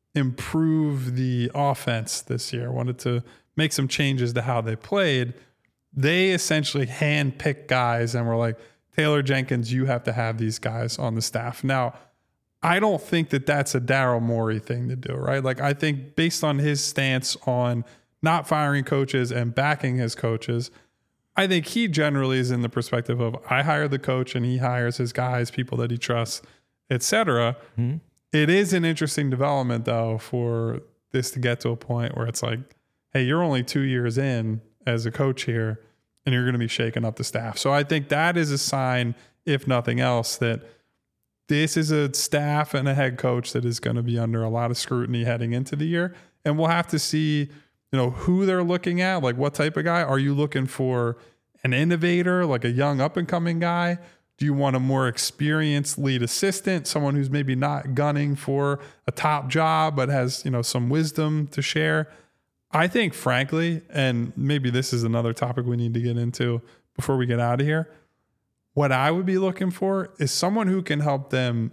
[SPEAKER 2] improve the offense this year, wanted to make some changes to how they played, they essentially handpicked guys and were like, Taylor Jenkins, you have to have these guys on the staff. Now, I don't think that that's a Daryl Morey thing to do, right? Like, I think based on his stance on not firing coaches and backing his coaches, I think he generally is in the perspective of I hire the coach and he hires his guys, people that he trusts, et cetera. Mm-hmm. It is an interesting development, though, for this to get to a point where it's like, hey, you're only two years in as a coach here and you're going to be shaking up the staff. So I think that is a sign, if nothing else, that this is a staff and a head coach that is going to be under a lot of scrutiny heading into the year. And we'll have to see, you know, who they're looking at, like what type of guy. Are you looking for an innovator, like a young up and coming guy? Do you want a more experienced lead assistant, someone who's maybe not gunning for a top job, but has, you know, some wisdom to share? I think, frankly, and maybe this is another topic we need to get into before we get out of here, what I would be looking for is someone who can help them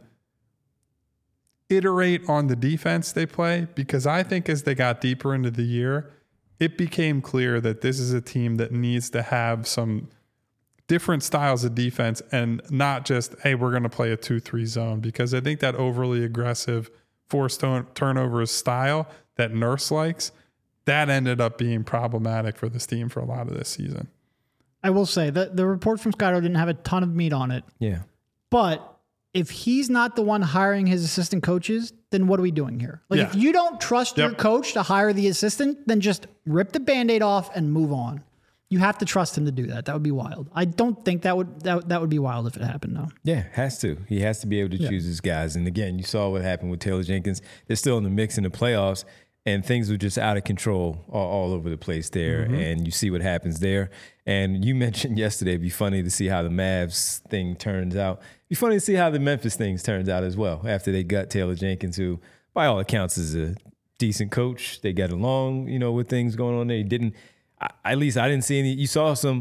[SPEAKER 2] iterate on the defense they play, because I think as they got deeper into the year, it became clear that this is a team that needs to have some different styles of defense and not just, hey, we're going to play a two three zone, because I think that overly aggressive forced turnovers style that Nurse likes, that ended up being problematic for this team for a lot of this season.
[SPEAKER 3] I will say that the report from Scotto didn't have a ton of meat on it.
[SPEAKER 1] Yeah.
[SPEAKER 3] But if he's not the one hiring his assistant coaches, then what are we doing here? Like,
[SPEAKER 2] Yeah.
[SPEAKER 3] if you don't trust
[SPEAKER 2] Yep.
[SPEAKER 3] your coach to hire the assistant, then just rip the Band-Aid off and move on. You have to trust him to do that. That would be wild. I don't think that would that, that would be wild if it happened, though.
[SPEAKER 1] Yeah, has to. He has to be able to
[SPEAKER 3] Yeah.
[SPEAKER 1] choose his guys. And again, you saw what happened with Taylor Jenkins. They're still in the mix in the playoffs, and things were just out of control all, all over the place there. Mm-hmm. And you see what happens there. And you mentioned yesterday, it'd be funny to see how the Mavs thing turns out. It'd be funny to see how the Memphis things turns out as well after they got Taylor Jenkins, who, by all accounts, is a decent coach. They got along, you know, with things going on there. He didn't, I, at least I didn't see any. You saw some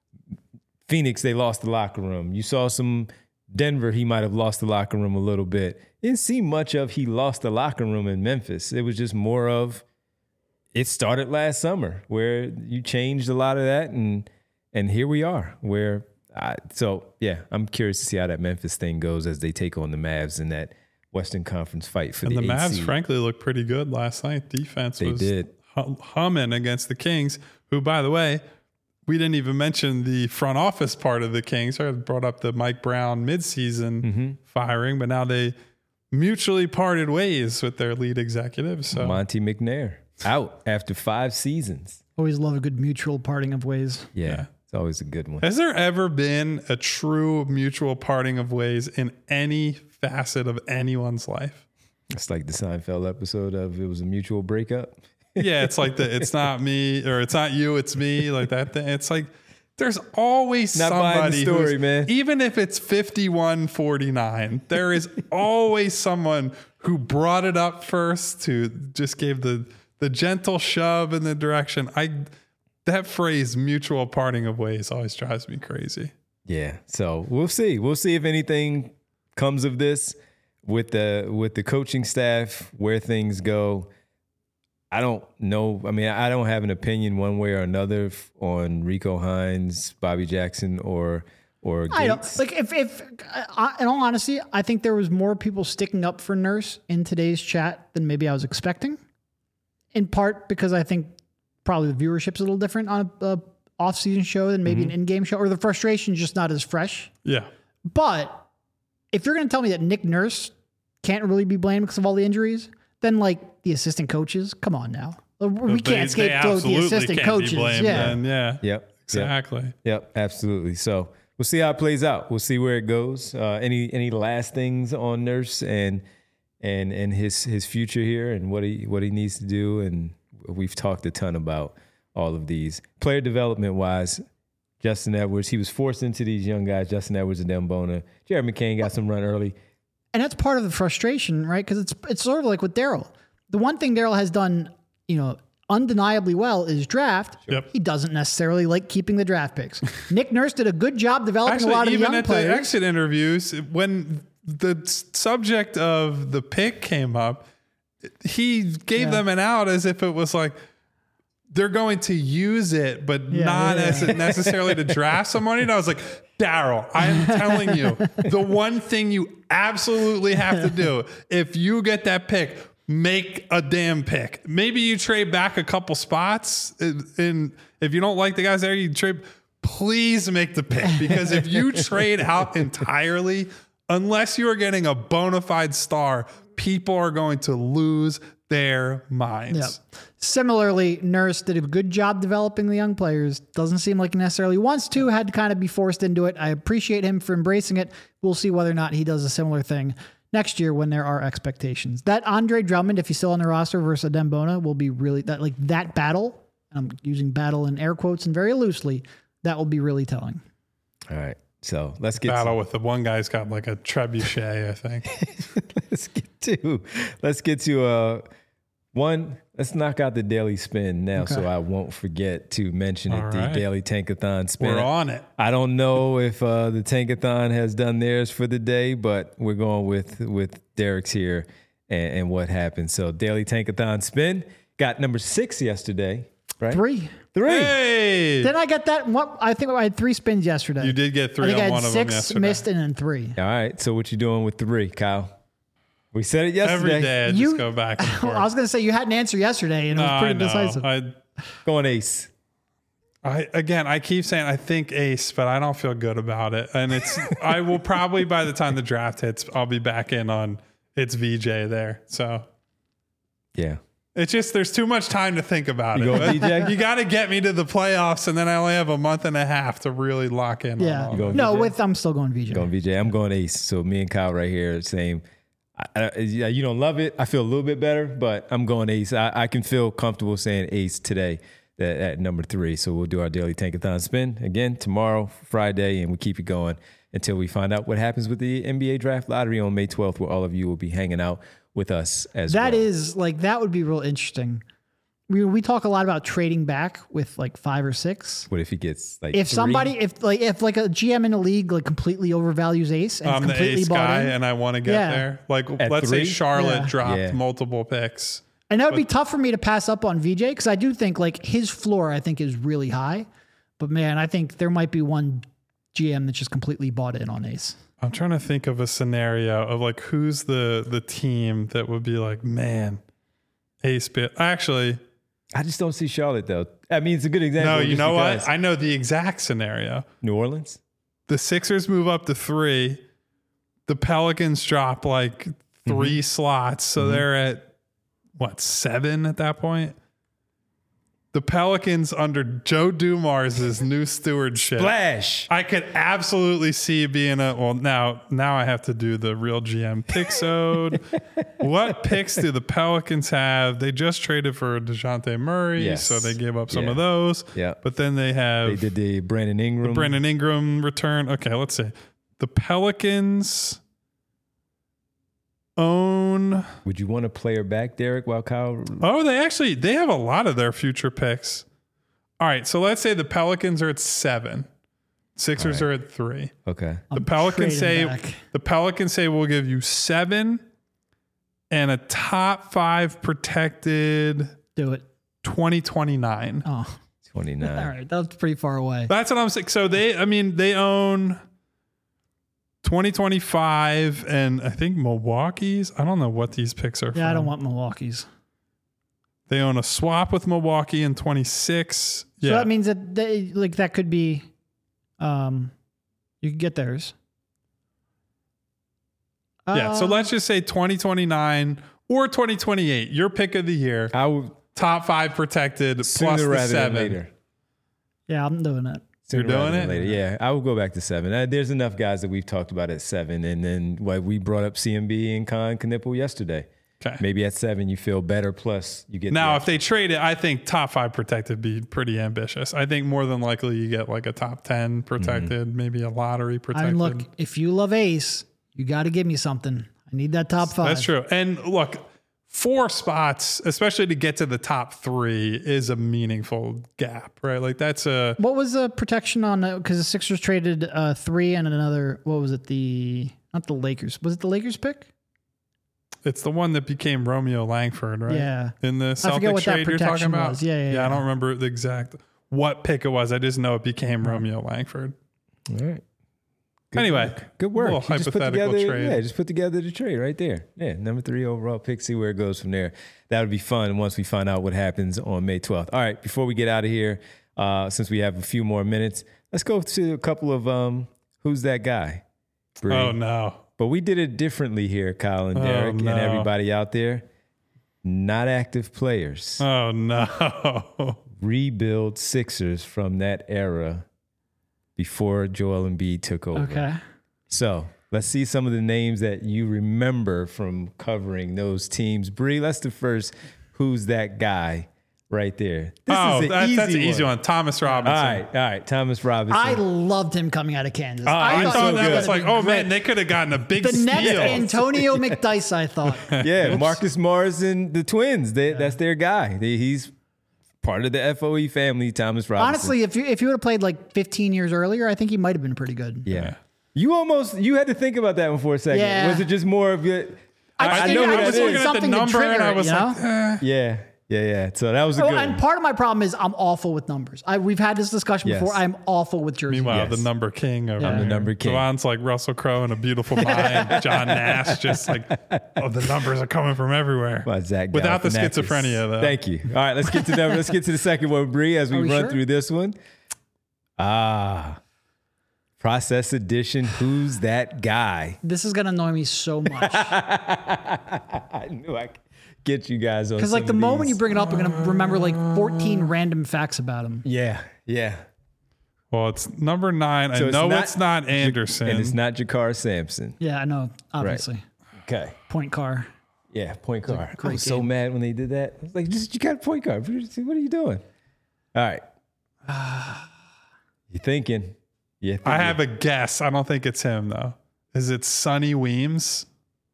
[SPEAKER 1] Phoenix, they lost the locker room. You saw some Denver, he might have lost the locker room a little bit. Didn't see much of he lost the locker room in Memphis. It was just more of, it started last summer where you changed a lot of that, and and here we are. Where I, so yeah, I'm curious to see how that Memphis thing goes as they take on the Mavs in that Western Conference fight for
[SPEAKER 2] and
[SPEAKER 1] the
[SPEAKER 2] the Mavs.
[SPEAKER 1] seed.
[SPEAKER 2] Frankly, looked pretty good last night. Defense
[SPEAKER 1] They
[SPEAKER 2] was
[SPEAKER 1] did.
[SPEAKER 2] hum- humming against the Kings, who, by the way, we didn't even mention the front office part of the Kings. I brought up the Mike Brown midseason
[SPEAKER 1] Mm-hmm.
[SPEAKER 2] firing, but now they mutually parted ways with their lead executive. So
[SPEAKER 1] Monty McNair out after five seasons.
[SPEAKER 3] Always love a good mutual parting of ways.
[SPEAKER 1] Yeah,
[SPEAKER 2] Yeah.
[SPEAKER 1] it's always a good one.
[SPEAKER 2] has there ever been a true mutual parting of ways in any facet of anyone's life?
[SPEAKER 1] It's like the Seinfeld episode of it was a mutual breakup.
[SPEAKER 2] Yeah, it's like the it's not me or it's not you, it's me, like that thing. It's like there's always
[SPEAKER 1] Not buying the
[SPEAKER 2] somebody
[SPEAKER 1] story,
[SPEAKER 2] who's-
[SPEAKER 1] man.
[SPEAKER 2] even if it's fifty-one forty-nine, there is always someone who brought it up first, who just gave the the gentle shove in the direction. I that phrase mutual parting of ways always drives me crazy.
[SPEAKER 1] Yeah, so we'll see. We'll see if anything comes of this with the with the coaching staff, where things go. I don't know. I mean, I don't have an opinion one way or another f- on Rico Hines, Bobby Jackson, or or Gates.
[SPEAKER 3] I don't like if if uh, in all honesty, I think there was more people sticking up for Nurse in today's chat than maybe I was expecting. In part because I think probably the viewership's a little different on a, a off-season show than maybe
[SPEAKER 1] Mm-hmm.
[SPEAKER 3] an in-game show, or the frustration's just not as fresh.
[SPEAKER 2] Yeah.
[SPEAKER 3] But if you're going to tell me that Nick Nurse can't really be blamed because of all the injuries, then like the assistant coaches, come on now. We
[SPEAKER 2] They-
[SPEAKER 3] can't
[SPEAKER 2] they
[SPEAKER 3] scapegoat the
[SPEAKER 2] absolutely
[SPEAKER 3] assistant
[SPEAKER 2] can't be
[SPEAKER 3] coaches.
[SPEAKER 2] blamed
[SPEAKER 3] Yeah.
[SPEAKER 2] then, yeah.
[SPEAKER 1] Yep.
[SPEAKER 2] Exactly.
[SPEAKER 1] Yep, yep, absolutely. So we'll see how it plays out. We'll see where it goes. Uh, any any last things on Nurse and and and his his future here and what he what he needs to do? And we've talked a ton about all of these player development wise. Justin Edwards, he was forced into these young guys. Justin Edwards and Dembona. Jared McCain got some run early.
[SPEAKER 3] And that's part of the frustration, right? Because it's it's sort of like with Daryl. The one thing Daryl has done, you know, undeniably well is draft.
[SPEAKER 2] Yep.
[SPEAKER 3] He doesn't necessarily like keeping the draft picks. Nick Nurse did a good job developing
[SPEAKER 2] Actually,
[SPEAKER 3] a lot of the
[SPEAKER 2] even
[SPEAKER 3] young
[SPEAKER 2] at
[SPEAKER 3] players.
[SPEAKER 2] the exit interviews, when the s- subject of the pick came up, he gave
[SPEAKER 3] Yeah.
[SPEAKER 2] them an out as if it was like, they're going to use it, but
[SPEAKER 3] Yeah,
[SPEAKER 2] not
[SPEAKER 3] yeah,
[SPEAKER 2] as necessarily to draft somebody. And I was like, Daryl, I am telling you, the one thing you absolutely have to do if you get that pick, make a damn pick. Maybe you trade back a couple spots, and if you don't like the guys there, you trade. Please make the pick, because if you trade out entirely, unless you are getting a bona fide star, people are going to lose their minds.
[SPEAKER 3] Yep. Similarly, Nurse did a good job developing the young players. Doesn't seem like he necessarily wants to, had to kind of be forced into it. I appreciate him for embracing it. We'll see whether or not he does a similar thing next year when there are expectations. That Andre Drummond, if he's still on the roster versus Dembona, will be really that like that battle. I'm using battle in air quotes and very loosely. That will be really telling.
[SPEAKER 1] All right. So let's get
[SPEAKER 2] Battle
[SPEAKER 1] to,
[SPEAKER 2] with the one guy's got like a trebuchet, I think.
[SPEAKER 1] let's get to let's get to uh one. Let's knock out the daily spin now,
[SPEAKER 3] Okay.
[SPEAKER 1] so I won't forget to mention it.
[SPEAKER 2] All
[SPEAKER 1] The
[SPEAKER 2] right.
[SPEAKER 1] daily Tankathon spin.
[SPEAKER 2] We're on it.
[SPEAKER 1] I don't know if uh, the Tankathon has done theirs for the day, but we're going with with Derek's here and, and what happened. So daily Tankathon spin got number six yesterday, right?
[SPEAKER 3] Three.
[SPEAKER 1] Three.
[SPEAKER 2] Hey,
[SPEAKER 3] Didn't I get that? What I think I had three spins yesterday.
[SPEAKER 2] you did get
[SPEAKER 3] I
[SPEAKER 2] three
[SPEAKER 3] think I
[SPEAKER 2] on
[SPEAKER 3] had
[SPEAKER 2] one of them
[SPEAKER 3] six
[SPEAKER 2] yesterday.
[SPEAKER 3] missed and then three.
[SPEAKER 1] All right. So what you doing with three, Kyle? We said it yesterday.
[SPEAKER 2] Every day I
[SPEAKER 3] You-
[SPEAKER 2] just go back and forth.
[SPEAKER 3] I was going to say you had an answer yesterday and it was
[SPEAKER 2] No,
[SPEAKER 3] pretty
[SPEAKER 2] I know.
[SPEAKER 3] decisive.
[SPEAKER 2] I,
[SPEAKER 1] Going ace.
[SPEAKER 2] I again, I keep saying I think ace, but I don't feel good about it. And it's I will probably by the time the draft hits, I'll be back in on it's V J there. So
[SPEAKER 1] Yeah.
[SPEAKER 2] it's just there's too much time to think about
[SPEAKER 1] You
[SPEAKER 2] it.
[SPEAKER 1] going V J?
[SPEAKER 2] You got to get me to the playoffs, and then I only have a month and a half to really lock in.
[SPEAKER 3] Yeah.
[SPEAKER 2] on all
[SPEAKER 1] going
[SPEAKER 2] that.
[SPEAKER 3] No,
[SPEAKER 1] V J?
[SPEAKER 3] with I'm still going V J.
[SPEAKER 1] Going V J. I'm going ace. So me and Kyle right here, same. I, I, yeah, you don't love it. I feel a little bit better, but I'm going ace. I, I can feel comfortable saying ace today at, at number three. So we'll do our daily Tankathon spin again tomorrow, Friday, and we keep it going until we find out what happens with the N B A draft lottery on May twelfth, where all of you will be hanging out with us as
[SPEAKER 3] That
[SPEAKER 1] well.
[SPEAKER 3] is like that would be real interesting. We we talk a lot about trading back with like five or six.
[SPEAKER 1] What if he gets like
[SPEAKER 3] If
[SPEAKER 1] three?
[SPEAKER 3] somebody, if like if like a G M in a league like completely overvalues Ace and
[SPEAKER 2] I'm the
[SPEAKER 3] completely
[SPEAKER 2] ace
[SPEAKER 3] bought
[SPEAKER 2] guy,
[SPEAKER 3] in,
[SPEAKER 2] and I want to get
[SPEAKER 3] Yeah.
[SPEAKER 2] there. Like
[SPEAKER 1] At
[SPEAKER 2] let's
[SPEAKER 1] three?
[SPEAKER 2] say Charlotte
[SPEAKER 3] Yeah.
[SPEAKER 2] dropped
[SPEAKER 1] Yeah.
[SPEAKER 2] multiple picks.
[SPEAKER 3] and that would be tough for me to pass up on V J because I do think like his floor I think is really high, but man, I think there might be one G M that just completely bought in on Ace.
[SPEAKER 2] I'm trying to think of a scenario of like who's the the team that would be like, man, ace bit. Actually,
[SPEAKER 1] I just don't see Charlotte though. I mean, it's a good example.
[SPEAKER 2] no, you
[SPEAKER 1] just
[SPEAKER 2] know
[SPEAKER 1] because.
[SPEAKER 2] what? I know the exact scenario.
[SPEAKER 1] New Orleans.
[SPEAKER 2] The Sixers move up to three. The Pelicans drop like 3
[SPEAKER 1] Mm-hmm.
[SPEAKER 2] slots. So they're at what, seven at that point? The Pelicans under Joe Dumars' new stewardship.
[SPEAKER 1] Splash.
[SPEAKER 2] I could absolutely see being a well now now I have to do the real G M picksode. What picks do the Pelicans have? They just traded for DeJounte Murray,
[SPEAKER 1] Yes.
[SPEAKER 2] so they gave up some
[SPEAKER 1] Yeah.
[SPEAKER 2] of those.
[SPEAKER 1] Yeah.
[SPEAKER 2] But then they have
[SPEAKER 1] They did the Brandon Ingram.
[SPEAKER 2] Brandon Ingram return. Okay, let's see. The Pelicans own.
[SPEAKER 1] Would you want a player back, Derek, while Kyle?
[SPEAKER 2] Oh, they actually they have a lot of their future picks. All right, so let's say the Pelicans are at seven. Sixers
[SPEAKER 1] All
[SPEAKER 2] are at three.
[SPEAKER 1] Okay.
[SPEAKER 2] The
[SPEAKER 3] I'm
[SPEAKER 2] Pelicans say
[SPEAKER 3] trading back.
[SPEAKER 2] the Pelicans say we'll give you seven and a top five protected
[SPEAKER 3] Do it.
[SPEAKER 2] twenty twenty-nine.
[SPEAKER 3] Oh,
[SPEAKER 1] twenty-nine.
[SPEAKER 3] all right, that's pretty far away.
[SPEAKER 2] That's what I'm saying. So they, I mean, they own twenty twenty-five and I think Milwaukee's. I don't know what these picks are.
[SPEAKER 3] Yeah, I
[SPEAKER 2] from.
[SPEAKER 3] don't want Milwaukee's.
[SPEAKER 2] They own a swap with Milwaukee in twenty-six.
[SPEAKER 3] So
[SPEAKER 2] Yeah.
[SPEAKER 3] that means that they, like that could be, um, you could get theirs.
[SPEAKER 2] yeah. So
[SPEAKER 3] Uh,
[SPEAKER 2] let's just say twenty twenty-nine or twenty twenty-eight. Your pick of the year.
[SPEAKER 1] I would
[SPEAKER 2] Top five protected
[SPEAKER 1] sooner
[SPEAKER 2] plus the
[SPEAKER 1] rather
[SPEAKER 2] seven.
[SPEAKER 1] than later.
[SPEAKER 3] Yeah, I'm doing it.
[SPEAKER 1] Sooner
[SPEAKER 2] You're doing
[SPEAKER 1] rather than
[SPEAKER 2] it?
[SPEAKER 1] later. Yeah, I would go back to seven. Uh, there's enough guys that we've talked about at seven, and then what we brought up C M B and Con Knipple yesterday.
[SPEAKER 2] Okay.
[SPEAKER 1] Maybe at seven you feel better. Plus you get
[SPEAKER 2] Now,
[SPEAKER 1] the
[SPEAKER 2] if they trade it, I think top five protected be pretty ambitious. I think more than likely you get like a top ten protected,
[SPEAKER 1] Mm-hmm.
[SPEAKER 2] maybe a lottery
[SPEAKER 3] I
[SPEAKER 2] protected.
[SPEAKER 3] mean, look, if you love Ace, you got to give me something. I need that top five.
[SPEAKER 2] That's true. And look, four spots, especially to get to the top three, is a meaningful gap, right? Like that's a
[SPEAKER 3] What was the protection on? Because the Sixers traded uh, three and another. What was it? The not the Lakers. Was it the Lakers pick?
[SPEAKER 2] It's the one that became Romeo Langford, right?
[SPEAKER 3] Yeah.
[SPEAKER 2] In the
[SPEAKER 3] I forget
[SPEAKER 2] Celtics
[SPEAKER 3] what that
[SPEAKER 2] trade you're talking
[SPEAKER 3] protection
[SPEAKER 2] about?
[SPEAKER 3] was. Yeah, yeah, yeah.
[SPEAKER 2] I don't remember the exact what pick it was. I just know it became Romeo Langford.
[SPEAKER 1] All right. Good
[SPEAKER 2] Anyway,
[SPEAKER 1] work. Good work.
[SPEAKER 2] little
[SPEAKER 1] You just put
[SPEAKER 2] hypothetical
[SPEAKER 1] together,
[SPEAKER 2] trade.
[SPEAKER 1] Yeah, just put together the trade right there. Yeah, number three overall pick. See where it goes from there. That would be fun once we find out what happens on May twelfth. All right, before we get out of here, uh, since we have a few more minutes, let's go to a couple of um, who's that guy? Bree.
[SPEAKER 2] Oh, no.
[SPEAKER 1] But we did it differently here, Kyle and
[SPEAKER 2] Oh,
[SPEAKER 1] Derek
[SPEAKER 2] no.
[SPEAKER 1] and everybody out there. Not active players.
[SPEAKER 2] Oh, no.
[SPEAKER 1] Rebuild Sixers from that era before Joel Embiid took over.
[SPEAKER 3] Okay.
[SPEAKER 1] So let's see some of the names that you remember from covering those teams. Bree, that's the first who's that guy right there. This
[SPEAKER 2] oh,
[SPEAKER 1] is an
[SPEAKER 2] that,
[SPEAKER 1] easy
[SPEAKER 2] that's an
[SPEAKER 1] one.
[SPEAKER 2] easy one. Thomas Robinson.
[SPEAKER 1] All right, all right. Thomas Robinson.
[SPEAKER 3] I loved him coming out of Kansas.
[SPEAKER 2] I,
[SPEAKER 1] he's
[SPEAKER 2] thought
[SPEAKER 1] so
[SPEAKER 2] that
[SPEAKER 1] good.
[SPEAKER 2] was like, oh, man, they could have gotten a big
[SPEAKER 3] the next
[SPEAKER 2] steal.
[SPEAKER 3] Antonio McDyess, I thought.
[SPEAKER 1] yeah, Marcus Morris and the Twins. They, That's their guy. They, he's part of the F O E family, Thomas Robinson.
[SPEAKER 3] Honestly, if you if you would have played like fifteen years earlier, I think he might have been pretty good.
[SPEAKER 1] yeah. You almost, you had to think about that one for a second.
[SPEAKER 3] Yeah.
[SPEAKER 1] Was it just more of it?
[SPEAKER 3] I,
[SPEAKER 1] I
[SPEAKER 3] think
[SPEAKER 1] know
[SPEAKER 3] I
[SPEAKER 1] who that
[SPEAKER 3] was
[SPEAKER 1] is.
[SPEAKER 3] looking
[SPEAKER 2] Looking at the
[SPEAKER 3] something to
[SPEAKER 2] number and
[SPEAKER 3] trigger
[SPEAKER 2] I
[SPEAKER 3] it,
[SPEAKER 2] was
[SPEAKER 3] you know?
[SPEAKER 2] like, eh.
[SPEAKER 1] Yeah, yeah, yeah. So that was a
[SPEAKER 3] Oh,
[SPEAKER 1] good
[SPEAKER 3] and
[SPEAKER 1] one.
[SPEAKER 3] part of my problem is I'm awful with numbers. I, we've had this discussion
[SPEAKER 1] Yes.
[SPEAKER 3] before. I'm awful with jerseys.
[SPEAKER 2] Meanwhile,
[SPEAKER 1] Yes.
[SPEAKER 2] the number king over
[SPEAKER 3] I'm the
[SPEAKER 2] here.
[SPEAKER 1] number king.
[SPEAKER 2] Devon's like Russell Crowe in A Beautiful Mind. John Nash just like, oh, the numbers are coming from everywhere.
[SPEAKER 1] By Zach
[SPEAKER 2] Without the
[SPEAKER 1] Galifianakis.
[SPEAKER 2] schizophrenia, though.
[SPEAKER 1] Thank you. All right, let's get to number. Let's get to the second one, Bree, as we,
[SPEAKER 3] Are we
[SPEAKER 1] run
[SPEAKER 3] sure?
[SPEAKER 1] through this one. Ah, process edition. Who's that guy?
[SPEAKER 3] This is going to annoy me so much.
[SPEAKER 1] I knew I could get you guys on.
[SPEAKER 3] Because like
[SPEAKER 1] some
[SPEAKER 3] the
[SPEAKER 1] of
[SPEAKER 3] moment
[SPEAKER 1] these.
[SPEAKER 3] you bring it up, I'm going to remember like fourteen random facts about him.
[SPEAKER 1] yeah, yeah.
[SPEAKER 2] Well, it's number nine.
[SPEAKER 1] So
[SPEAKER 2] I
[SPEAKER 1] it's
[SPEAKER 2] know
[SPEAKER 1] not-
[SPEAKER 2] it's not Anderson.
[SPEAKER 1] And it's not Jakar Sampson.
[SPEAKER 3] Yeah, I know. Obviously,
[SPEAKER 1] Okay.
[SPEAKER 3] point car.
[SPEAKER 1] Yeah, point guard. I
[SPEAKER 3] great
[SPEAKER 1] was so
[SPEAKER 3] game.
[SPEAKER 1] mad when they did that. I was like, just you got a point guard. What are you doing? All right. You're thinking. Yeah.
[SPEAKER 2] I have a guess. I don't think it's him, though. Is it Sonny Weems?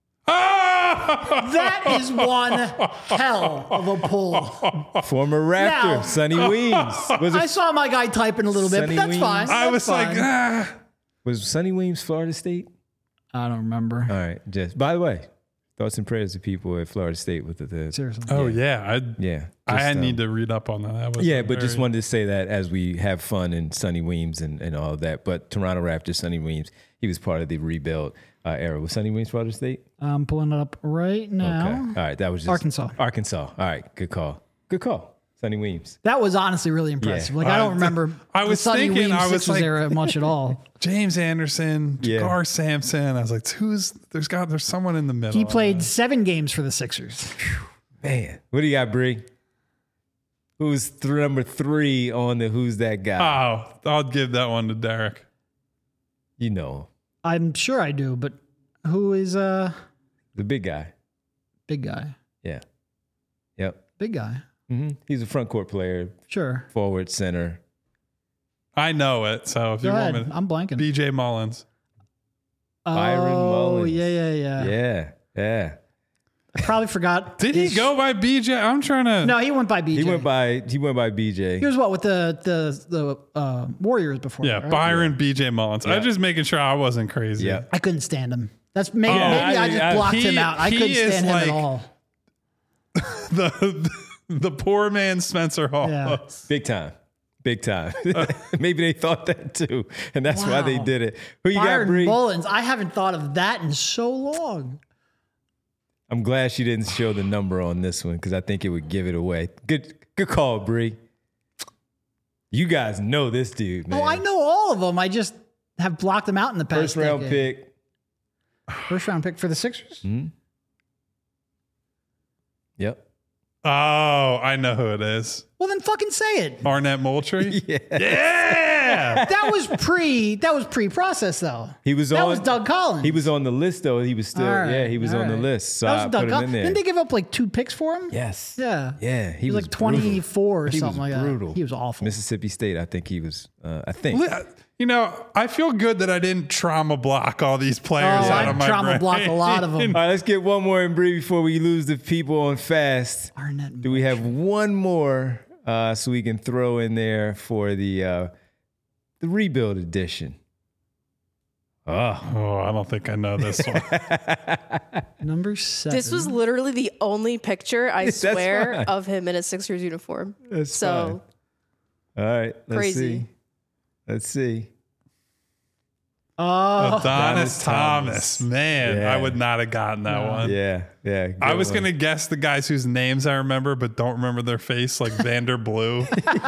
[SPEAKER 2] Oh!
[SPEAKER 3] That is one hell of a pull.
[SPEAKER 1] former Raptor,
[SPEAKER 3] Now-
[SPEAKER 1] Sonny Weems. Was
[SPEAKER 3] I
[SPEAKER 1] it
[SPEAKER 3] saw my guy typing a little bit,
[SPEAKER 1] Sonny
[SPEAKER 3] but that's
[SPEAKER 1] Weems?
[SPEAKER 3] fine.
[SPEAKER 2] I
[SPEAKER 3] That's
[SPEAKER 2] was like,
[SPEAKER 3] fine.
[SPEAKER 2] ah.
[SPEAKER 1] was Sonny Weems Florida State?
[SPEAKER 3] I don't remember.
[SPEAKER 1] All right. Just by the way, thoughts and prayers to people at Florida State with the, the
[SPEAKER 3] Seriously.
[SPEAKER 2] Oh, yeah. I,
[SPEAKER 1] yeah.
[SPEAKER 2] I
[SPEAKER 1] just, um,
[SPEAKER 2] need to read up on that. that was
[SPEAKER 1] Yeah,
[SPEAKER 2] a
[SPEAKER 1] but just
[SPEAKER 2] very-
[SPEAKER 1] wanted to say that as we have fun and Sonny Weems and, and all of that. But Toronto Raptors, Sonny Weems, he was part of the rebuild uh, era. Was Sonny Weems Florida State?
[SPEAKER 3] I'm pulling it up right now.
[SPEAKER 1] Okay. All right. That was just
[SPEAKER 3] Arkansas.
[SPEAKER 1] Arkansas. All right. Good call. Good call. Sonny Weems.
[SPEAKER 3] That was honestly really impressive.
[SPEAKER 1] Yeah.
[SPEAKER 3] Like I
[SPEAKER 2] Uh,
[SPEAKER 3] don't remember
[SPEAKER 2] I
[SPEAKER 3] the
[SPEAKER 2] was
[SPEAKER 3] Sonny
[SPEAKER 2] thinking,
[SPEAKER 3] Weems
[SPEAKER 2] I was
[SPEAKER 3] Sixers
[SPEAKER 2] like-
[SPEAKER 3] era much at all.
[SPEAKER 2] James Anderson,
[SPEAKER 1] Yeah.
[SPEAKER 2] Jakar Sampson. I was like, who's there's got there's someone in the middle.
[SPEAKER 3] He played seven games for the Sixers.
[SPEAKER 1] Man. What do you got, Bree? Who's th- number three on the Who's That Guy?
[SPEAKER 2] Oh, I'll give that one to Derek.
[SPEAKER 1] You know,
[SPEAKER 3] I'm sure I do, but who is uh
[SPEAKER 1] the big guy.
[SPEAKER 3] big guy?
[SPEAKER 1] Yeah. Yep.
[SPEAKER 3] Big guy.
[SPEAKER 1] hmm He's a front court player,
[SPEAKER 3] Sure.
[SPEAKER 1] forward, center.
[SPEAKER 2] I know it. So if
[SPEAKER 3] Go
[SPEAKER 2] you
[SPEAKER 3] ahead.
[SPEAKER 2] want me,
[SPEAKER 3] I'm blanking.
[SPEAKER 2] B J Mullins.
[SPEAKER 1] Byron
[SPEAKER 3] oh,
[SPEAKER 1] Mullins.
[SPEAKER 3] yeah, yeah, yeah,
[SPEAKER 1] Yeah. Yeah.
[SPEAKER 3] I probably forgot.
[SPEAKER 2] Did
[SPEAKER 3] his-
[SPEAKER 2] he go by B J? I'm trying to.
[SPEAKER 3] No, he went by B J.
[SPEAKER 1] He went by he went by B J.
[SPEAKER 3] He was what with the the the uh, Warriors before.
[SPEAKER 2] Yeah,
[SPEAKER 3] that, right?
[SPEAKER 2] Byron B J Mullins. I
[SPEAKER 1] Yeah.
[SPEAKER 2] was just making sure I wasn't crazy.
[SPEAKER 1] Yeah.
[SPEAKER 3] I couldn't stand him. That's maybe,
[SPEAKER 2] Oh,
[SPEAKER 3] maybe I,
[SPEAKER 1] I-
[SPEAKER 3] just
[SPEAKER 1] I-
[SPEAKER 3] blocked
[SPEAKER 2] he-
[SPEAKER 3] him out. I
[SPEAKER 2] he
[SPEAKER 3] couldn't
[SPEAKER 2] is
[SPEAKER 3] stand him
[SPEAKER 2] like-
[SPEAKER 3] at all.
[SPEAKER 2] The the poor man Spencer Hall.
[SPEAKER 3] Yeah.
[SPEAKER 1] Big time. Big time. Maybe they thought that too. And that's why they
[SPEAKER 3] Wow.
[SPEAKER 1] did it. Who you got,
[SPEAKER 3] Byron
[SPEAKER 1] Bree?
[SPEAKER 3] Mullins. I haven't thought of that in so long.
[SPEAKER 1] I'm glad she didn't show the number on this one because I think it would give it away. Good good call, Bree. You guys know this dude, man.
[SPEAKER 3] Oh, I know all of them. I just have blocked them out in the past.
[SPEAKER 1] First round
[SPEAKER 3] decade.
[SPEAKER 1] pick.
[SPEAKER 3] First round pick for the Sixers.
[SPEAKER 1] Yep.
[SPEAKER 2] Oh, I know who it is.
[SPEAKER 3] Well, then fucking say it.
[SPEAKER 2] Arnett Moultrie.
[SPEAKER 1] Yeah.
[SPEAKER 2] Yeah.
[SPEAKER 3] That was pre. That was pre-process though.
[SPEAKER 1] He was
[SPEAKER 3] That
[SPEAKER 1] on
[SPEAKER 3] was Doug Collins.
[SPEAKER 1] He was on the list though. He was still
[SPEAKER 3] All right,
[SPEAKER 1] yeah, he was
[SPEAKER 3] all
[SPEAKER 1] on the
[SPEAKER 3] right.
[SPEAKER 1] list. So
[SPEAKER 3] That was
[SPEAKER 1] I
[SPEAKER 3] Doug
[SPEAKER 1] put him in
[SPEAKER 3] Collins.
[SPEAKER 1] there.
[SPEAKER 3] Didn't they give up like two picks for him?
[SPEAKER 1] Yes.
[SPEAKER 3] Yeah.
[SPEAKER 1] Yeah. He,
[SPEAKER 3] He was,
[SPEAKER 1] was
[SPEAKER 3] like twenty-four or
[SPEAKER 1] He
[SPEAKER 3] something
[SPEAKER 1] was
[SPEAKER 3] like
[SPEAKER 1] brutal.
[SPEAKER 3] that. He was awful.
[SPEAKER 1] Mississippi State, I think he was uh, I think.
[SPEAKER 2] You know, I feel good that I didn't trauma block all these players
[SPEAKER 3] Oh,
[SPEAKER 2] out
[SPEAKER 3] I
[SPEAKER 2] of my
[SPEAKER 3] trauma
[SPEAKER 2] brain.
[SPEAKER 3] blocked a lot of them.
[SPEAKER 1] All right, let's get one more in Bree before we lose the people on fast.
[SPEAKER 3] Arnett
[SPEAKER 1] Do we have one more uh, so we can throw in there for the uh, the rebuild edition? Oh,
[SPEAKER 2] Oh, I don't think I know this one.
[SPEAKER 3] Number seven.
[SPEAKER 4] This was literally the only picture, I
[SPEAKER 1] That's
[SPEAKER 4] swear,
[SPEAKER 1] fine.
[SPEAKER 4] of him in a Sixers uniform.
[SPEAKER 1] That's
[SPEAKER 4] so
[SPEAKER 1] all right. Let's
[SPEAKER 4] Crazy.
[SPEAKER 1] see. Let's see.
[SPEAKER 3] Oh,
[SPEAKER 2] Adonis
[SPEAKER 1] Adonis
[SPEAKER 2] Thomas.
[SPEAKER 1] Thomas.
[SPEAKER 2] Man,
[SPEAKER 1] Yeah.
[SPEAKER 2] I would not have gotten that one.
[SPEAKER 1] Yeah, yeah.
[SPEAKER 2] I
[SPEAKER 1] good
[SPEAKER 2] was
[SPEAKER 1] one.
[SPEAKER 2] going to guess the guys whose names I remember, but don't remember their face, like Vander Blue.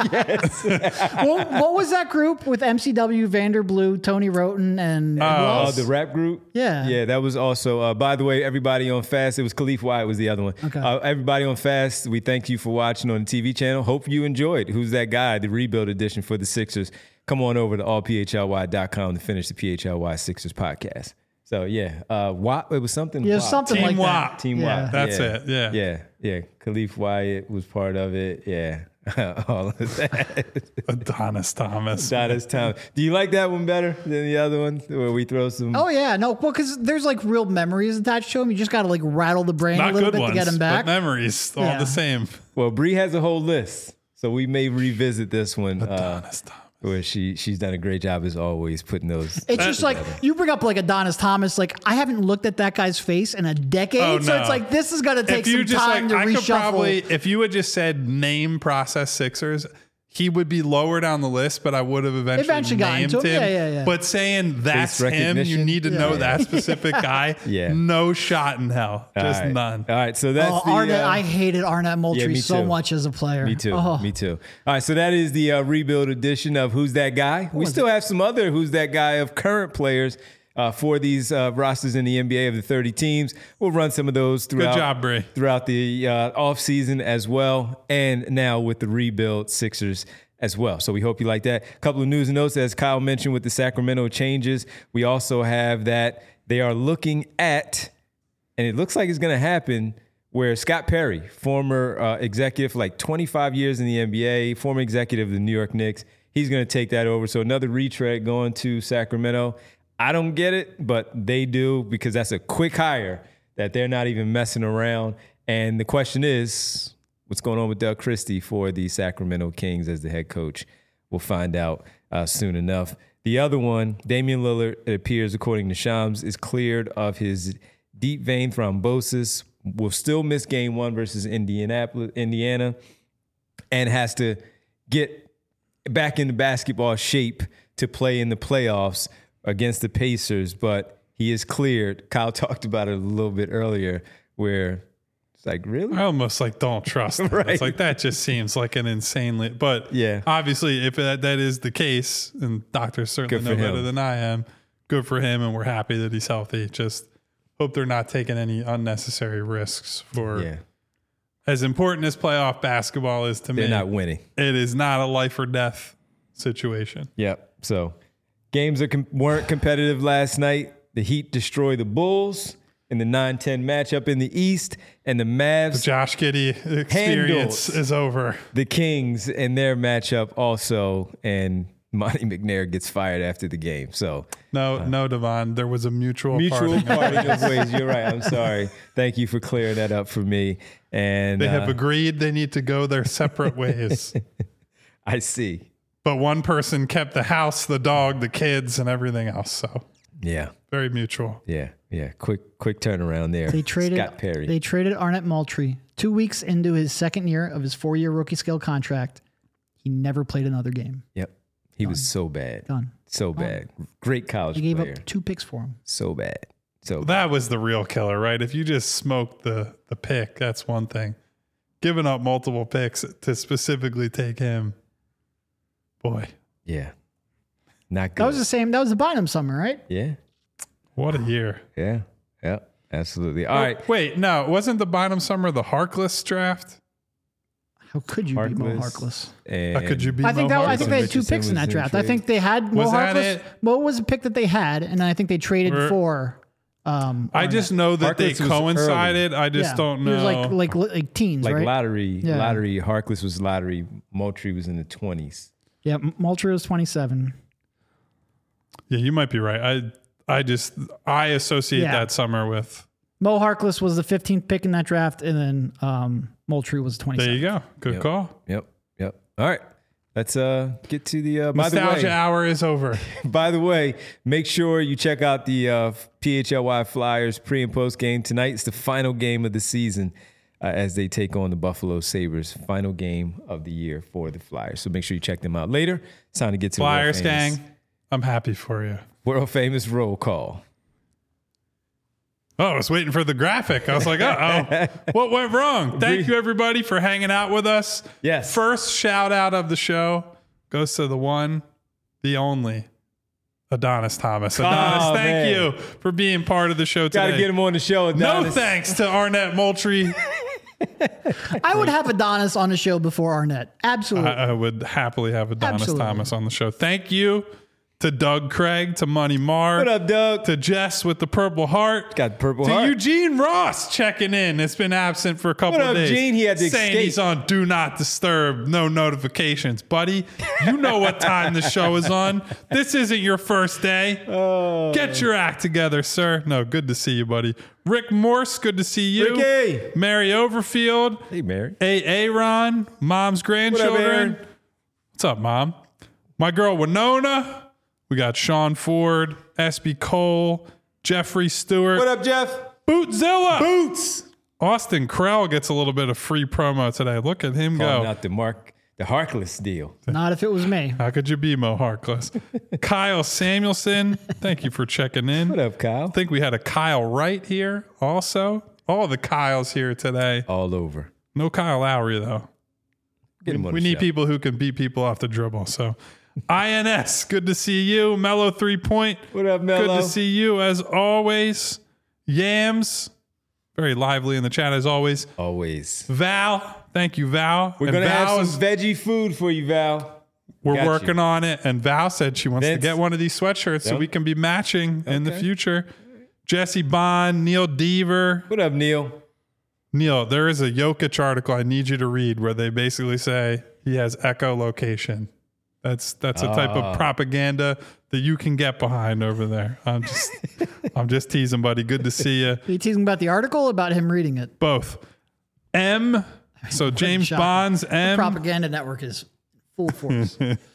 [SPEAKER 3] what, what was that group with M C W, Vander Blue, Tony Roten, and who
[SPEAKER 2] Oh,
[SPEAKER 1] Oh,
[SPEAKER 3] else?
[SPEAKER 1] the rap group?
[SPEAKER 3] Yeah.
[SPEAKER 1] Yeah, that was also, uh, by the way, everybody on Fast, it was Khalif Wyatt was the other one.
[SPEAKER 3] Okay.
[SPEAKER 1] Uh, everybody on Fast, we thank you for watching on the T V channel. Hope you enjoyed Who's That Guy, the rebuild edition for the Sixers. Come on over to all p h l y dot com to finish the P H L Y Sixers podcast. So, yeah, uh, W A P, it was something.
[SPEAKER 3] Yeah,
[SPEAKER 1] W A P.
[SPEAKER 3] something
[SPEAKER 2] Team
[SPEAKER 3] like
[SPEAKER 2] W A
[SPEAKER 3] that.
[SPEAKER 2] P.
[SPEAKER 1] Team
[SPEAKER 3] yeah.
[SPEAKER 1] W A P.
[SPEAKER 2] That's
[SPEAKER 1] yeah.
[SPEAKER 2] it, yeah.
[SPEAKER 1] Yeah, yeah. Khalif Wyatt was part of it. Yeah. All of that.
[SPEAKER 2] Adonis Thomas.
[SPEAKER 1] Adonis Thomas. Do you like that one better than the other one where we throw some?
[SPEAKER 3] Oh yeah, no, well, because there's like real memories attached to him. You just got to like rattle the brain
[SPEAKER 2] Not
[SPEAKER 3] a little
[SPEAKER 2] good
[SPEAKER 3] bit
[SPEAKER 2] ones,
[SPEAKER 3] to get him back.
[SPEAKER 2] but memories all
[SPEAKER 3] Yeah.
[SPEAKER 2] the same.
[SPEAKER 1] Well, Bree has a whole list, so we may revisit this one. Uh,
[SPEAKER 2] Adonis Thomas.
[SPEAKER 1] where she she's done a great job as always putting those.
[SPEAKER 3] It's just like you bring up like Adonis Thomas. Like I haven't looked at that guy's face in a decade,
[SPEAKER 2] Oh,
[SPEAKER 3] so
[SPEAKER 2] no.
[SPEAKER 3] it's like this is gonna take
[SPEAKER 2] If you
[SPEAKER 3] some
[SPEAKER 2] just
[SPEAKER 3] time
[SPEAKER 2] like,
[SPEAKER 3] to
[SPEAKER 2] I could
[SPEAKER 3] reshuffle.
[SPEAKER 2] probably, if you had just said name process Sixers, he would be lower down the list, but I would have eventually,
[SPEAKER 3] Eventually gotten
[SPEAKER 2] named
[SPEAKER 3] to
[SPEAKER 2] him.
[SPEAKER 3] him. Yeah, yeah, yeah.
[SPEAKER 2] But saying that's him, you
[SPEAKER 1] recognition?
[SPEAKER 2] need to
[SPEAKER 3] Yeah.
[SPEAKER 2] know
[SPEAKER 3] Yeah.
[SPEAKER 2] that specific guy.
[SPEAKER 1] Yeah.
[SPEAKER 2] No shot in hell. Just
[SPEAKER 1] All right.
[SPEAKER 2] none.
[SPEAKER 1] All right, so that's
[SPEAKER 3] Oh,
[SPEAKER 1] the.
[SPEAKER 3] Arnett,
[SPEAKER 1] uh,
[SPEAKER 3] I hated Arnett Moultrie
[SPEAKER 1] yeah, me
[SPEAKER 3] so
[SPEAKER 1] too.
[SPEAKER 3] much as a player.
[SPEAKER 1] Me too.
[SPEAKER 3] Oh.
[SPEAKER 1] Me too. All right, so that is the uh, rebuild edition of Who's That Guy. We still have some other Who's That Guy of current players uh, for these uh, rosters in the N B A of the thirty teams. We'll run some of those throughout,
[SPEAKER 2] job, Bree.
[SPEAKER 1] throughout the uh, offseason as well, and now with the rebuild Sixers as well. So we hope you like that. A couple of news and notes, as Kyle mentioned, with the Sacramento changes. We also have that they are looking at, and it looks like it's going to happen, where Scott Perry, former uh, executive for like twenty-five years in the N B A, former executive of the New York Knicks, he's going to take that over. So another retread going to Sacramento. I don't get it, but they do, because that's a quick hire that they're not even messing around. And the question is, what's going on with Doug Christie for the Sacramento Kings as the head coach? We'll find out uh, soon enough. The other one, Damian Lillard, it appears, according to Shams, is cleared of his deep vein thrombosis, will still miss game one versus Indianapolis, Indiana, and has to get back into basketball shape to play in the playoffs against the Pacers. But he is cleared. Kyle talked about it a little bit earlier, where it's like, really?
[SPEAKER 2] I almost like don't trust him.
[SPEAKER 1] Right.
[SPEAKER 2] It's like that just seems like an insanely, but
[SPEAKER 1] Yeah.
[SPEAKER 2] obviously if that, that is the case, and doctors certainly
[SPEAKER 1] Good for
[SPEAKER 2] know better
[SPEAKER 1] him.
[SPEAKER 2] than I am, good for him. And we're happy that he's healthy. Just hope they're not taking any unnecessary risks for
[SPEAKER 1] Yeah,
[SPEAKER 2] as important as playoff basketball is to
[SPEAKER 1] they're
[SPEAKER 2] me.
[SPEAKER 1] not winning.
[SPEAKER 2] It is not a life or death situation.
[SPEAKER 1] Yep. So games are com- weren't competitive last night. The Heat destroy the Bulls in the nine ten matchup in the East, and the Mavs,
[SPEAKER 2] Josh Giddey experience
[SPEAKER 1] Handled.
[SPEAKER 2] is over.
[SPEAKER 1] the Kings in their matchup also, and Monty McNair gets fired after the game. So
[SPEAKER 2] No, no, Devon. There was a mutual,
[SPEAKER 1] mutual
[SPEAKER 2] parting.
[SPEAKER 1] parting of ways. You're right. I'm sorry. Thank you for clearing that up for me. And
[SPEAKER 2] They have
[SPEAKER 1] uh,
[SPEAKER 2] agreed they need to go their separate ways.
[SPEAKER 1] I see.
[SPEAKER 2] But one person kept the house, the dog, the kids, and everything else. So
[SPEAKER 1] Yeah.
[SPEAKER 2] very mutual.
[SPEAKER 1] Yeah. Yeah. Quick, quick turnaround there.
[SPEAKER 3] They traded
[SPEAKER 1] Scott Perry.
[SPEAKER 3] They traded Arnett Moultrie two weeks into his second year of his four-year rookie scale contract. He never played another game.
[SPEAKER 1] Yep. He was so bad.
[SPEAKER 3] Done.
[SPEAKER 1] So bad. Great college
[SPEAKER 3] They gave
[SPEAKER 1] player.
[SPEAKER 3] up two picks for him.
[SPEAKER 1] So bad. So bad.
[SPEAKER 2] That was the real killer, right? If you just smoked the the pick, that's one thing. Giving up multiple picks to specifically take him, boy,
[SPEAKER 1] Yeah. Not good.
[SPEAKER 3] That was the same. That was the Bynum summer, right?
[SPEAKER 1] yeah.
[SPEAKER 2] what a year.
[SPEAKER 1] Yeah. Yeah. Absolutely. All
[SPEAKER 2] Oh,
[SPEAKER 1] right.
[SPEAKER 2] Wait, no, wasn't the Bynum summer the Harkless draft?
[SPEAKER 3] How could you be Mo
[SPEAKER 1] Harkless.
[SPEAKER 3] Harkless?
[SPEAKER 1] And
[SPEAKER 2] How could you be
[SPEAKER 3] I think
[SPEAKER 2] Mo
[SPEAKER 3] that I think they had
[SPEAKER 2] Harkless?
[SPEAKER 3] two
[SPEAKER 1] Richardson
[SPEAKER 3] picks in
[SPEAKER 1] was
[SPEAKER 3] that
[SPEAKER 1] in
[SPEAKER 3] draft. I
[SPEAKER 1] trade.
[SPEAKER 3] think they had Mo
[SPEAKER 2] Was that
[SPEAKER 3] Harkless.
[SPEAKER 2] it?
[SPEAKER 3] Mo was a pick that they had, and then I think they traded
[SPEAKER 2] Or-
[SPEAKER 3] for. Um,
[SPEAKER 2] I just know that they
[SPEAKER 1] Harkless was
[SPEAKER 2] coincided. I just
[SPEAKER 3] yeah.
[SPEAKER 2] don't
[SPEAKER 3] He
[SPEAKER 2] know.
[SPEAKER 3] was like like like teens,
[SPEAKER 1] like
[SPEAKER 3] right?
[SPEAKER 1] lottery,
[SPEAKER 3] Yeah.
[SPEAKER 1] lottery. Harkless was lottery. Moultrie was in the twenties.
[SPEAKER 3] Yeah, M- Moultrie was twenty-seven.
[SPEAKER 2] yeah, you might be right. I I just I associate
[SPEAKER 3] Yeah.
[SPEAKER 2] that summer with.
[SPEAKER 3] Mo Harkless was the fifteenth pick in that draft, and then um, Moultrie was
[SPEAKER 2] There
[SPEAKER 3] twenty-seven.
[SPEAKER 2] you go. Good
[SPEAKER 1] Yep.
[SPEAKER 2] call.
[SPEAKER 1] Yep. Yep. All right. let's uh, get to the. Uh, by the
[SPEAKER 2] Nostalgia
[SPEAKER 1] way,
[SPEAKER 2] hour is over.
[SPEAKER 1] by the way, make sure you check out the uh, P H L Y Flyers pre and post game tonight. It's the final game of the season uh, as they take on the Buffalo Sabres. Final game of the year for the Flyers. So make sure you check them out later. It's time to get to
[SPEAKER 2] Flyers
[SPEAKER 1] world famous,
[SPEAKER 2] gang, I'm happy for you.
[SPEAKER 1] world famous roll call.
[SPEAKER 2] Oh, I was waiting for the graphic. I was like, uh-oh, what went wrong? Thank you, everybody, for hanging out with us.
[SPEAKER 1] Yes.
[SPEAKER 2] First shout out of the show goes to the one, the only, Adonis Thomas. Adonis,
[SPEAKER 1] Oh,
[SPEAKER 2] thank
[SPEAKER 1] man.
[SPEAKER 2] you for being part of the show
[SPEAKER 1] Got
[SPEAKER 2] today.
[SPEAKER 1] to get him on the show.
[SPEAKER 2] no
[SPEAKER 1] Adonis.
[SPEAKER 2] thanks to Arnett Moultrie.
[SPEAKER 3] I would have Adonis on the show before Arnett. Absolutely.
[SPEAKER 2] I, I would happily have Adonis
[SPEAKER 3] Absolutely.
[SPEAKER 2] Thomas on the show. Thank you to Doug Craig, to Money Marr,
[SPEAKER 1] What up, Doug?
[SPEAKER 2] to Jess with the Purple Heart.
[SPEAKER 1] Got Purple
[SPEAKER 2] to
[SPEAKER 1] Heart.
[SPEAKER 2] Eugene Ross checking in. It's been absent for a couple
[SPEAKER 1] What
[SPEAKER 2] of
[SPEAKER 1] up,
[SPEAKER 2] days.
[SPEAKER 1] Gene? He had to
[SPEAKER 2] saying
[SPEAKER 1] escape.
[SPEAKER 2] he's on Do Not Disturb, no notifications. Buddy, you know what time the show is on. This isn't your first day.
[SPEAKER 1] Oh.
[SPEAKER 2] Get your act together, sir. No, good to see you, buddy. Rick Morse, good to see you.
[SPEAKER 1] Ricky.
[SPEAKER 2] Mary Overfield.
[SPEAKER 1] Hey, Mary.
[SPEAKER 2] A. Aaron, mom's grandchildren.
[SPEAKER 1] Aaron?
[SPEAKER 2] What's up, mom? My girl Winona. We got Sean Ford, S B Cole, Jeffrey Stewart,
[SPEAKER 1] What up, Jeff?
[SPEAKER 2] Bootzilla.
[SPEAKER 1] Boots.
[SPEAKER 2] Austin Krell gets a little bit of free promo today. Look at him
[SPEAKER 1] Calling
[SPEAKER 2] go.
[SPEAKER 1] out the Mark, the Harkless deal.
[SPEAKER 3] Not if it was me.
[SPEAKER 2] How could you be Mo Harkless? Kyle Samuelson, thank you for checking in.
[SPEAKER 1] What up, Kyle?
[SPEAKER 2] I think we had a Kyle Wright here also. All the Kyles here today.
[SPEAKER 1] All over.
[SPEAKER 2] No Kyle Lowry, though.
[SPEAKER 1] Get him on
[SPEAKER 2] We
[SPEAKER 1] the
[SPEAKER 2] need
[SPEAKER 1] show.
[SPEAKER 2] people who can beat people off the dribble. So, I N S, good to see you. Mellow three point.
[SPEAKER 1] What up, Mello?
[SPEAKER 2] Good to see you as always. Yams, very lively in the chat as always.
[SPEAKER 1] Always.
[SPEAKER 2] Val, thank you, Val.
[SPEAKER 1] We're
[SPEAKER 2] And
[SPEAKER 1] going to have
[SPEAKER 2] Val
[SPEAKER 1] some
[SPEAKER 2] is-
[SPEAKER 1] veggie food for you, Val.
[SPEAKER 2] We're
[SPEAKER 1] Got
[SPEAKER 2] working
[SPEAKER 1] you.
[SPEAKER 2] on it. And Val said she wants
[SPEAKER 1] Vince.
[SPEAKER 2] to get one of these sweatshirts so
[SPEAKER 1] Yep.
[SPEAKER 2] we can be matching in the
[SPEAKER 1] Okay.
[SPEAKER 2] future. Jesse Bond, Neil Deaver.
[SPEAKER 1] What up, Neil?
[SPEAKER 2] Neil, there is a Jokic article I need you to read where they basically say he has echolocation. That's that's a type
[SPEAKER 1] Ah.
[SPEAKER 2] of propaganda that you can get behind over there. I'm just I'm just teasing, buddy. Good to see you.
[SPEAKER 3] Are you teasing about the article or about him reading it?
[SPEAKER 2] Both. M. So James
[SPEAKER 3] Shocking.
[SPEAKER 2] Bonds.
[SPEAKER 3] The
[SPEAKER 2] M.
[SPEAKER 3] propaganda network is full force.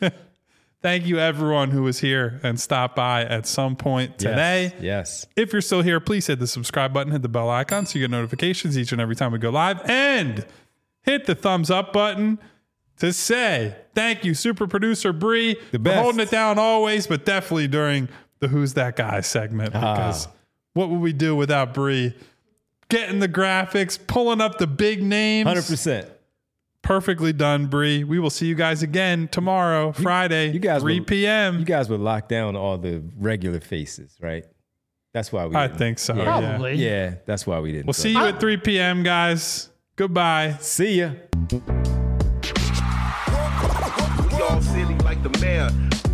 [SPEAKER 2] Thank you, everyone who was here and stopped by at some point today.
[SPEAKER 1] Yes. yes.
[SPEAKER 2] If you're still here, please hit the subscribe button, hit the bell icon so you get notifications each and every time we go live, and hit the thumbs up button to say thank you, super producer Bree,
[SPEAKER 1] The
[SPEAKER 2] for
[SPEAKER 1] best.
[SPEAKER 2] holding it down always, but definitely during the Who's That Guy segment, because what would we do without Bree? Getting the graphics, pulling up the big names.
[SPEAKER 1] one hundred percent.
[SPEAKER 2] Perfectly done, Bree. We will see you guys again tomorrow, Friday,
[SPEAKER 1] you guys
[SPEAKER 2] three
[SPEAKER 1] will-
[SPEAKER 2] p.m.
[SPEAKER 1] You guys would lock down all the regular faces, right? That's why we
[SPEAKER 2] I
[SPEAKER 1] didn't.
[SPEAKER 2] think so. Yeah.
[SPEAKER 3] Probably.
[SPEAKER 1] Yeah, that's why we didn't.
[SPEAKER 2] We'll see you at three p.m., guys. Goodbye.
[SPEAKER 1] See ya.
[SPEAKER 5] We all silly like the mayor.